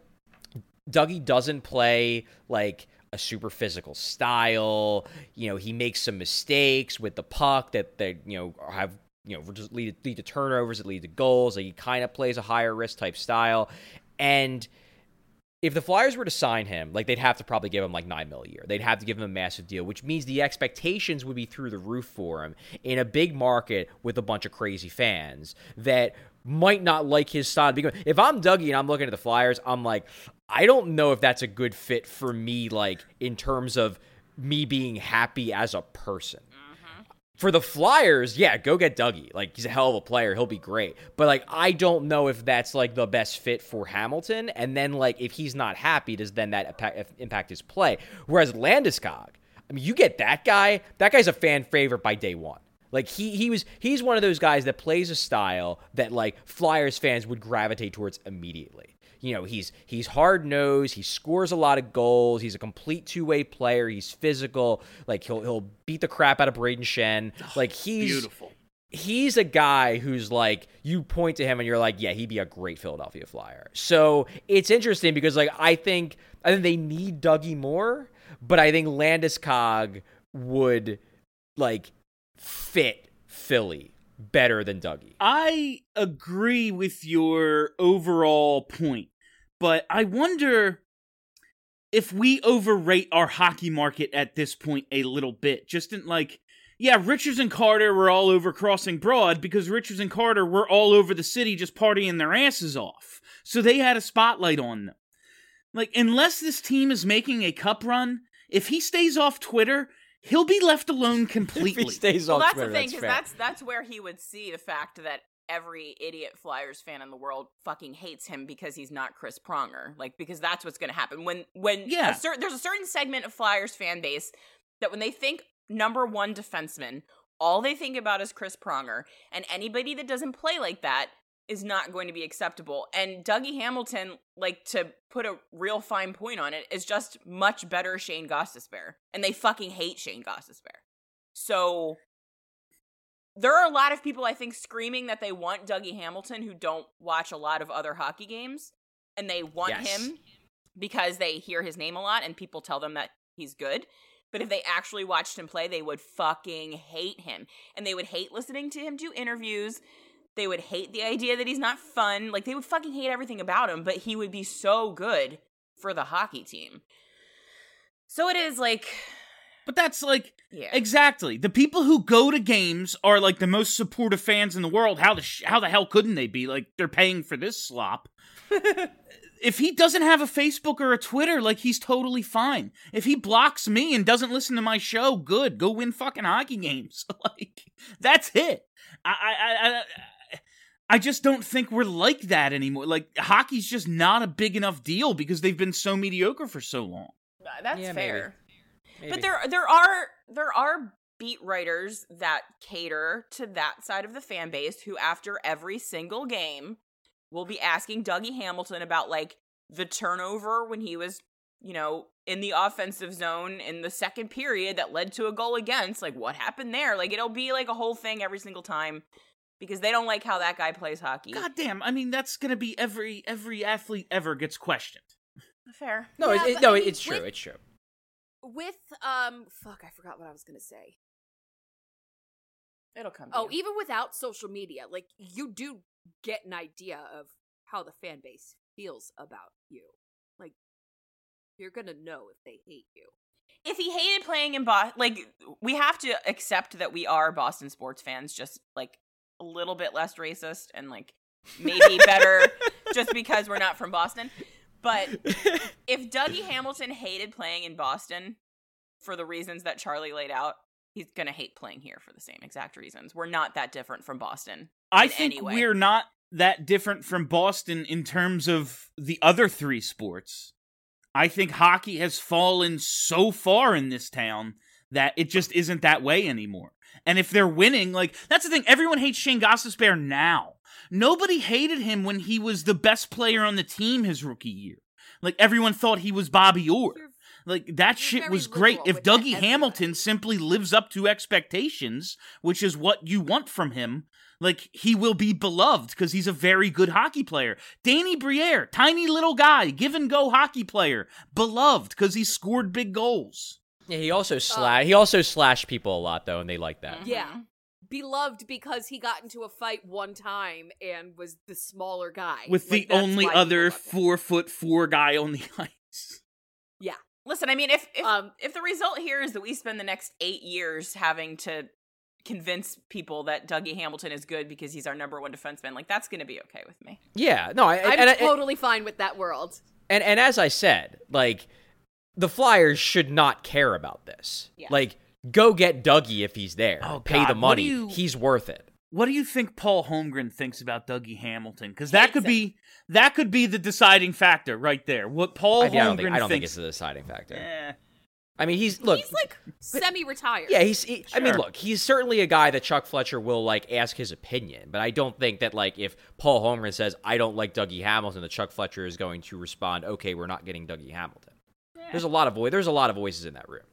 Dougie doesn't play, like, a super physical style. You know, he makes some mistakes with the puck that they, have, just lead to turnovers, that lead to goals. Like, he kind of plays a higher risk type style. And if the Flyers were to sign him, like, they'd have to probably give him like $9 million a year. They'd have to give him a massive deal, which means the expectations would be through the roof for him in a big market with a bunch of crazy fans that might not like his style. Because if I'm Dougie and I'm looking at the Flyers, I'm like, I don't know if that's a good fit for me, like, in terms of me being happy as a person. For the Flyers, yeah, go get Dougie. Like, he's a hell of a player. He'll be great. But, like, I don't know if that's, like, the best fit for Hamilton. And then, like, if he's not happy, does then that impact his play? Whereas Landeskog, I mean, you get that guy. That guy's a fan favorite by day one. Like, he's one of those guys that plays a style that, like, Flyers fans would gravitate towards immediately. You know, he's hard-nosed, he scores a lot of goals, he's a complete two-way player, he's physical, like, he'll beat the crap out of Braden Shen. Like, Beautiful. He's a guy who's, like, you point to him and you're like, yeah, he'd be a great Philadelphia Flyer. So it's interesting because, like, I think they need Dougie more, but I think Landeskog would, like, fit Philly better than Dougie. I agree with your overall point, but I wonder if we overrate our hockey market at this point a little bit. Just in, like, yeah, Richards and Carter were all over Crossing Broad because Richards and Carter were all over the city just partying their asses off. So they had a spotlight on them. Like, unless this team is making a cup run, if he stays off Twitter, he'll be left alone completely. If he stays Well, off that's Twitter, the thing, that's because fair. that's where he would see the fact that every idiot Flyers fan in the world fucking hates him because he's not Chris Pronger. Like, because that's what's going to happen. When Yeah. there's a certain segment of Flyers fan base that when they think number one defenseman, all they think about is Chris Pronger, and anybody that doesn't play like that is not going to be acceptable. And Dougie Hamilton, like, to put a real fine point on it, is just much better Shane Gostisbehere. And they fucking hate Shane Gostisbehere. So there are a lot of people, I think, screaming that they want Dougie Hamilton who don't watch a lot of other hockey games. And they want him because they hear his name a lot and people tell them that he's good. But if they actually watched him play, they would fucking hate him. And they would hate listening to him do interviews. They would hate the idea that he's not fun. Like, they would fucking hate everything about him, but he would be so good for the hockey team. So it is, like... But that's, like, Yeah. exactly. The people who go to games are, like, the most supportive fans in the world. How the hell couldn't they be? Like, they're paying for this slop. If he doesn't have a Facebook or a Twitter, like, he's totally fine. If he blocks me and doesn't listen to my show, good. Go win fucking hockey games. Like, that's it. I just don't think we're like that anymore. Like, hockey's just not a big enough deal because they've been so mediocre for so long. That's Yeah, fair. Maybe. But there are beat writers that cater to that side of the fan base who, after every single game, will be asking Dougie Hamilton about, like, the turnover when he was, in the offensive zone in the second period that led to a goal against. Like, what happened there? Like, it'll be, like, a whole thing every single time because they don't like how that guy plays hockey. God damn, I mean, that's gonna be every athlete ever gets questioned. Fair. No, Yeah, it, but no, I mean, it's true. It's true. With I forgot what I was gonna say. It'll come to Oh, you. even without social media, like, you do get an idea of how the fan base feels about you. Like, you're gonna know if they hate you. If he hated playing in Boston, like, we have to accept that we are Boston sports fans, just, like, a little bit less racist and, like, maybe better just because we're not from Boston. But if Dougie Hamilton hated playing in Boston for the reasons that Charlie laid out, he's going to hate playing here for the same exact reasons. We're not that different from Boston. I think we're not that different from Boston in terms of the other three sports. I think hockey has fallen so far in this town that it just isn't that way anymore. And if they're winning, like, that's the thing. Everyone hates Shane Gostisbehere now. Nobody hated him when he was the best player on the team his rookie year. Like, everyone thought he was Bobby Orr. Like, that shit was great. If Dougie Hamilton simply lives up to expectations, which is what you want from him, like, he will be beloved because he's a very good hockey player. Danny Briere, tiny little guy, give-and-go hockey player, beloved because he scored big goals. Yeah, he also slashed people a lot, though, and they like that. Yeah. Beloved because he got into a fight one time and was the smaller guy. With the only other 4'4" guy on the ice. Yeah. Listen, I mean, if the result here is that we spend the next 8 years having to convince people that Dougie Hamilton is good because he's our number one defenseman, like, that's going to be okay with me. Yeah, no, I'm totally fine with that world. And as I said, like, the Flyers should not care about this. Yeah. Like, go get Dougie if he's there. Oh, pay God. the money. He's worth it. What do you think Paul Holmgren thinks about Dougie Hamilton? Because that could be the deciding factor right there. What Paul Holmgren thinks. I don't think it's the deciding factor. I mean, he's like semi-retired. Yeah, Sure. I mean, look, he's certainly a guy that Chuck Fletcher will, like, ask his opinion. But I don't think that, like, if Paul Holmgren says, I don't like Dougie Hamilton, that Chuck Fletcher is going to respond, okay, we're not getting Dougie Hamilton. Yeah. There's a lot of voices in that room.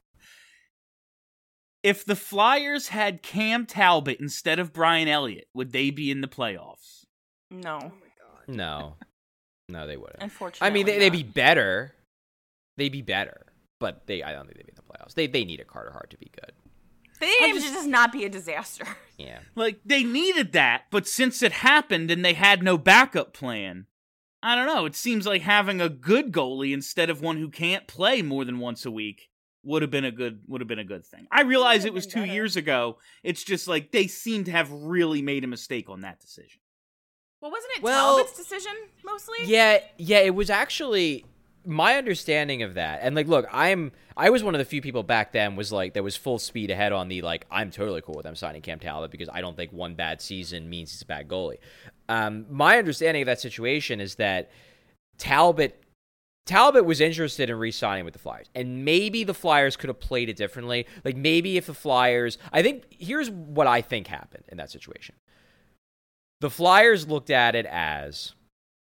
If the Flyers had Cam Talbot instead of Brian Elliott, would they be in the playoffs? No. Oh my God. No, they wouldn't. Unfortunately, I mean, they'd be better. They'd be better, but I don't think they'd be in the playoffs. They need a Carter Hart to be good. They need to just not be a disaster. Yeah. Like, they needed that, but since it happened and they had no backup plan, I don't know, it seems like having a good goalie instead of one who can't play more than once a week would have been a good thing. I realize it was 2 years ago. It's just like they seem to have really made a mistake on that decision. Well, wasn't it Talbot's decision mostly? Yeah, it was actually my understanding of that. And like, look, I was one of the few people back then that was full speed ahead on the, like, I'm totally cool with them signing Cam Talbot because I don't think one bad season means he's a bad goalie. My understanding of that situation is that Talbot was interested in re-signing with the Flyers, and maybe the Flyers could have played it differently. Like, maybe if the Flyers, here's what I think happened in that situation. The Flyers looked at it as,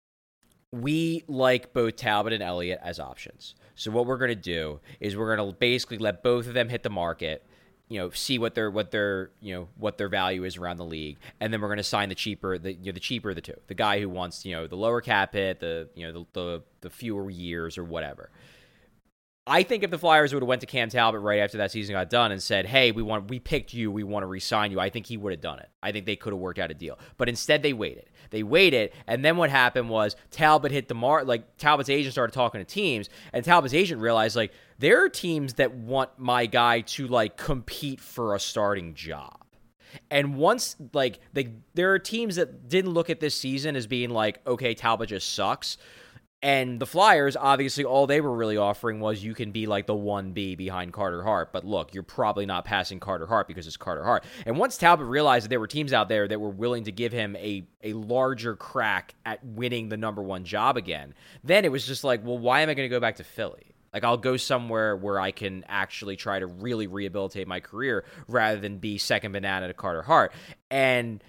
we like both Talbot and Elliott as options. So what we're going to do is we're going to basically let both of them hit the market, see what their value is around the league, and then we're going to sign the cheaper of the two, the guy who wants the lower cap hit, the fewer years or whatever. I think if the Flyers would have went to Cam Talbot right after that season got done and said, hey, we picked you, we want to re-sign you, I think he would have done it. I think they could have worked out a deal. But instead they waited. And then what happened was Talbot hit the mark, like, Talbot's agent started talking to teams, and Talbot's agent realized, like, there are teams that want my guy to, like, compete for a starting job. And once, like, there are teams that didn't look at this season as being like, okay, Talbot just sucks. And the Flyers, obviously, all they were really offering was you can be like the 1B behind Carter Hart. But look, you're probably not passing Carter Hart because it's Carter Hart. And once Talbot realized that there were teams out there that were willing to give him a larger crack at winning the number one job again, then it was just like, well, why am I going to go back to Philly? Like, I'll go somewhere where I can actually try to really rehabilitate my career rather than be second banana to Carter Hart. And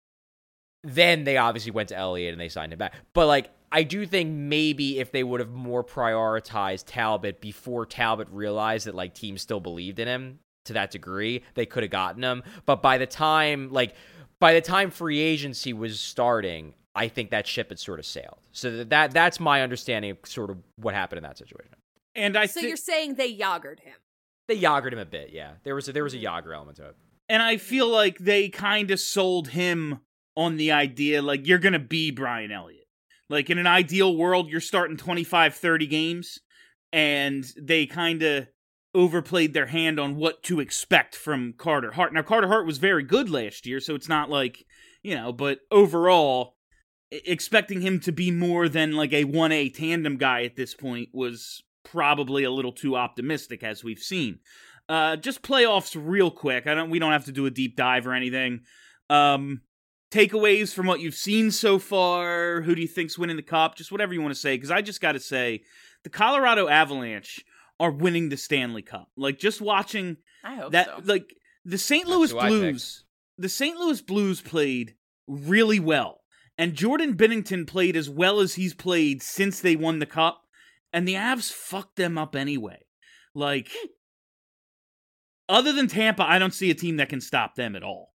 then they obviously went to Elliott and they signed him back. But, like, I do think maybe if they would have more prioritized Talbot before Talbot realized that, like, teams still believed in him to that degree, they could have gotten him. But by the time free agency was starting, I think that ship had sort of sailed. So that's my understanding of sort of what happened in that situation. And so you're saying they Yagered him? They Yagered him a bit, yeah. There was a Yager element to it. And I feel like they kind of sold him on the idea, like, you're going to be Brian Elliott. Like, in an ideal world, you're starting 25, 30 games, and they kind of overplayed their hand on what to expect from Carter Hart. Now, Carter Hart was very good last year, so it's not like, but overall, expecting him to be more than like a 1A tandem guy at this point was probably a little too optimistic, as we've seen. Just playoffs real quick. We don't have to do a deep dive or anything. Takeaways from what you've seen so far. Who do you think's winning the cup? Just whatever you want to say, because I just got to say, the Colorado Avalanche are winning the Stanley Cup. Like, just watching I hope that, so. like, the St. Louis Blues. The St. Louis Blues played really well, and Jordan Binnington played as well as he's played since they won the cup, and the Avs fucked them up anyway. Like, other than Tampa, I don't see a team that can stop them at all.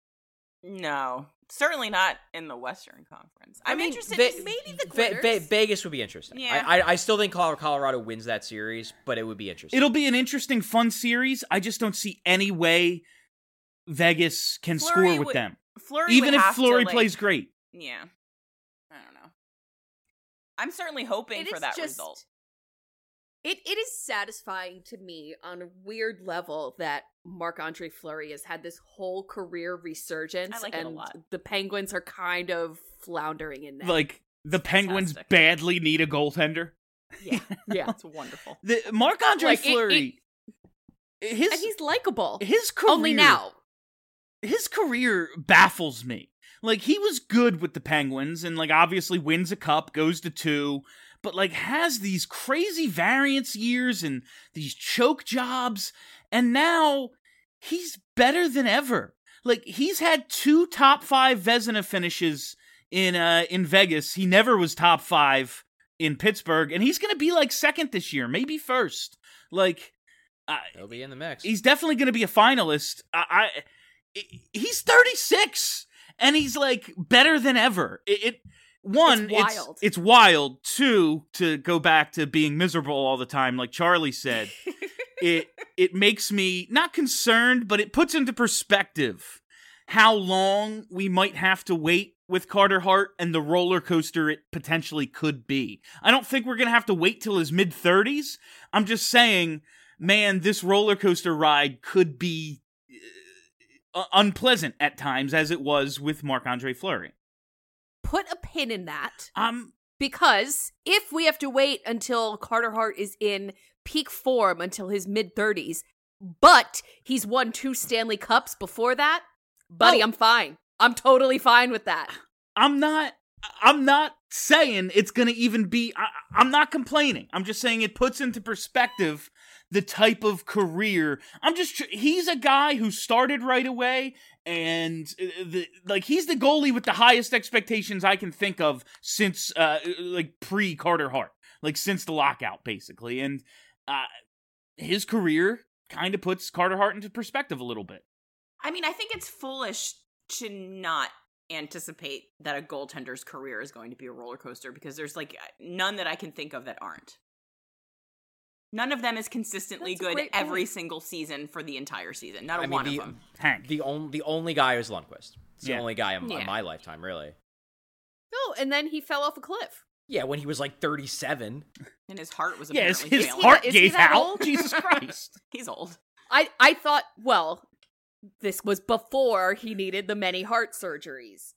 No, certainly not in the Western Conference. I'm mean, interested. maybe the quitters. Vegas would be interesting. Yeah. I still think Colorado wins that series, but it would be interesting. It'll be an interesting, fun series. I just don't see any way Vegas can Fleury score with would- them. Fleury Even would if have to, Fleury like- plays great. Yeah, I don't know. I'm certainly hoping It for is that just- result. It is satisfying to me on a weird level that Marc-Andre Fleury has had this whole career resurgence, I like it a and lot. the Penguins are kind of floundering in that. Like, the Penguins fantastic. badly need a goaltender. yeah. That's wonderful. The Marc-Andre Like, Fleury, and he's likable. his career, Only now. his career baffles me. Like, he was good with the Penguins and, like, obviously wins a cup, goes to 2, but, like, has these crazy variance years and these choke jobs, and now he's better than ever. Like, he's had 2 top 5 Vezina finishes in Vegas. He never was top 5 in Pittsburgh, and he's going to be, like, second this year, maybe first. Like, He'll be in the mix. he's definitely going to be a finalist. He's 36, and he's like better than ever. One, It's wild. It's wild. 2, to go back to being miserable all the time, like Charlie said. it makes me not concerned, but it puts into perspective how long we might have to wait with Carter Hart and the roller coaster it potentially could be. I don't think we're going to have to wait till his mid-30s. I'm just saying, man, this roller coaster ride could be unpleasant at times, as it was with Marc-Andre Fleury. Put a pin in that. Um, Because if we have to wait until Carter Hart is in peak form until his mid-30s, but he's won 2 Stanley Cups before that, buddy, I'm fine. I'm totally fine with that. I'm not saying it's going to even be, I'm not complaining. I'm just saying it puts into perspective the type of career. He's a guy who started right away, and he's the goalie with the highest expectations I can think of since pre Carter Hart, like since the lockout basically. And his career kind of puts Carter Hart into perspective a little bit. I mean, I think it's foolish to not anticipate that a goaltender's career is going to be a roller coaster, because there's like none that I can think of that aren't. None of them is consistently That's a good great every point. single season for the entire season. Not I mean, one of them. Hank. The only guy is Lundqvist. It's the Yeah. only guy in Yeah. my lifetime, really. Oh, and then he fell off a cliff. Yeah, when he was like 37. And his heart was Yes, apparently his failing. heart Is he gave that out. old? Jesus Christ. He's old. I thought, well, this was before he needed the many heart surgeries.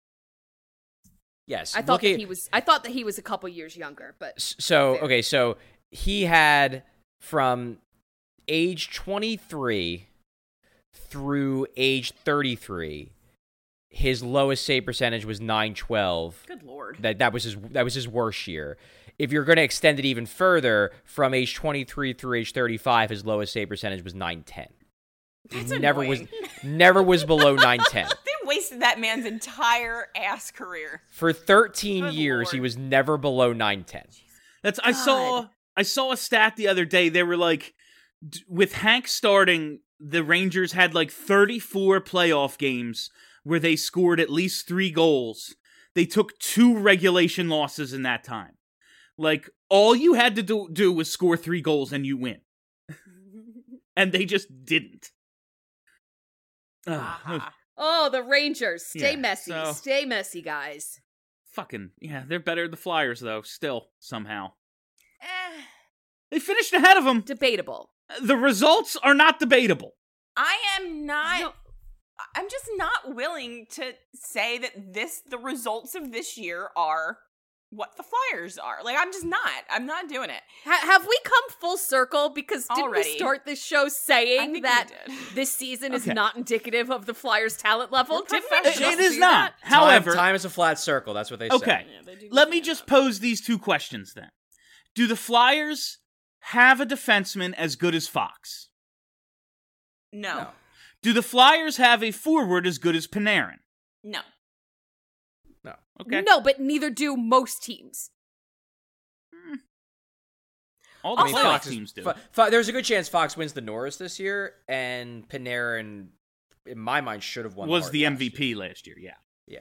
Yes. I thought look that he was a couple years younger, but So, Fair. okay, so he had from age 23 through age 33, his lowest save percentage was .912. Good lord. That was his worst year. If you're going to extend it even further, from age 23 through age 35, his lowest save percentage was .910. That's never annoying. never was below .910. They wasted that man's entire ass career. For 13 Good years, Lord. he was never below .910. I saw a stat the other day. They were like, with Hank starting, the Rangers had like 34 playoff games where they scored at least 3 goals. They took 2 regulation losses in that time. Like, all you had to do was score 3 goals and you win. And they just didn't. Ah. oh, the Rangers, stay Yeah, messy, guys. Fucking, yeah, they're better than the Flyers, though, still, somehow. Eh. They finished ahead of them. Debatable. The results are not debatable. I am not No. I'm just not willing to say that the results of this year are what the Flyers are. Like, I'm not doing it. Have we come full circle? Because didn't Already. we start this show I saying think that we did. this season is Okay. not indicative of the Flyers' talent level? We're Didn't we professionals. just It is do not. that? However, time is a flat circle. That's what they say. okay, Yeah, they do let me say just that. pose these two questions then. Do the Flyers have a defenseman as good as Fox? No. Do the Flyers have a forward as good as Panarin? No. Okay. No, but neither do most teams. All the I mean, playoff Fox teams do. There's a good chance Fox wins the Norris this year, and Panarin, in my mind, should have won. Was the Hart last MVP year. last year, yeah. Yeah.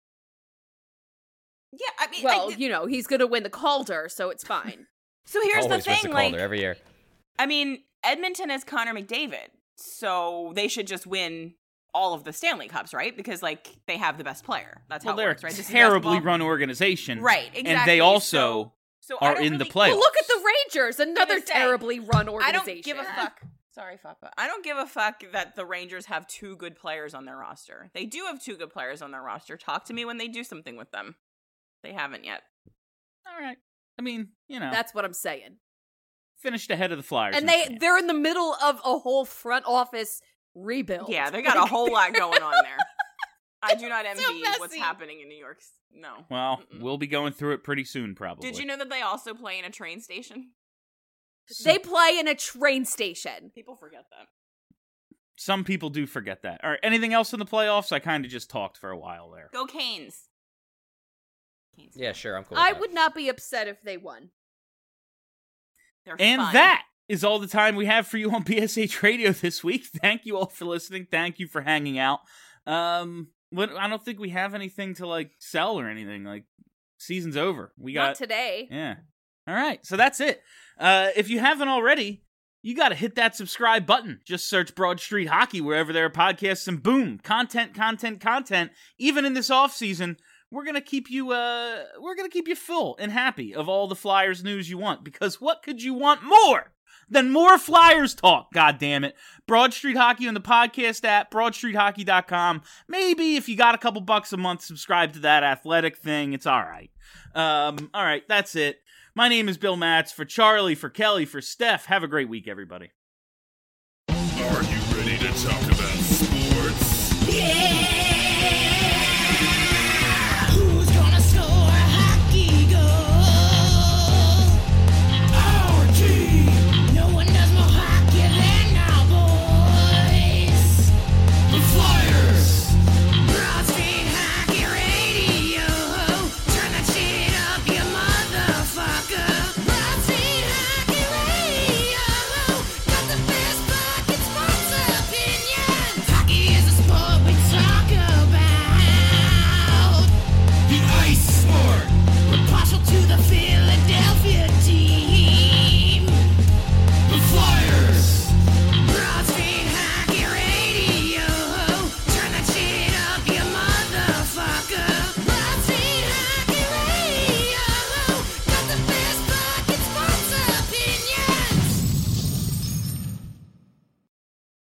Yeah, I mean, Well, he's going to win the Calder, so it's fine. so here's Always the wins thing, the like, Calder every year. I mean, Edmonton has Connor McDavid, so they should just win all of the Stanley Cups, right? Because, like, they have the best player. That's Well, how it they're works, right? a This is terribly basketball. run organization. Right, exactly. And they also So I are don't in the really- playoffs. Well, look at the Rangers, another say, terribly run I organization. don't give a fuck. Sorry, Fapa. I don't give a fuck that the Rangers have 2 good players on their roster. They do have 2 good players on their roster. Talk to me when they do something with them. They haven't yet. All right. I mean, That's what I'm saying. finished ahead of the Flyers. And in the they're in the middle of a whole front office rebuild. Yeah, they got a whole lot going on there. I do not envy so what's messy. happening in New York. No. Well, Mm-mm. we'll be going through it pretty soon, probably. Did you know that they also play in a train station? They play in a train station. People forget that. Some people do forget that. All right, anything else in the playoffs? I kind of just talked for a while there. Go Canes. Canes. Yeah, sure. I'm cool. I with that. would not be upset if they won. They're And fun. that is all the time we have for you on BSH Radio this week. Thank you all for listening. Thank you for hanging out. I don't think we have anything to sell or anything. Season's over. We got Not today. Yeah. All right. So that's it. If you haven't already, you got to hit that subscribe button. Just search Broad Street Hockey wherever there are podcasts, and boom, content. Even in this off season, we're gonna keep you full and happy of all the Flyers news you want. Because what could you want more than more Flyers talk? God damn it! Broad Street Hockey on the podcast app, BroadStreetHockey.com. Maybe if you got a couple bucks a month, subscribe to that athletic thing. It's all right. All right, that's it. My name is Bill Matz. For Charlie, for Kelly, for Steph. Have a great week, everybody. Are you ready to talk about sports? Yeah!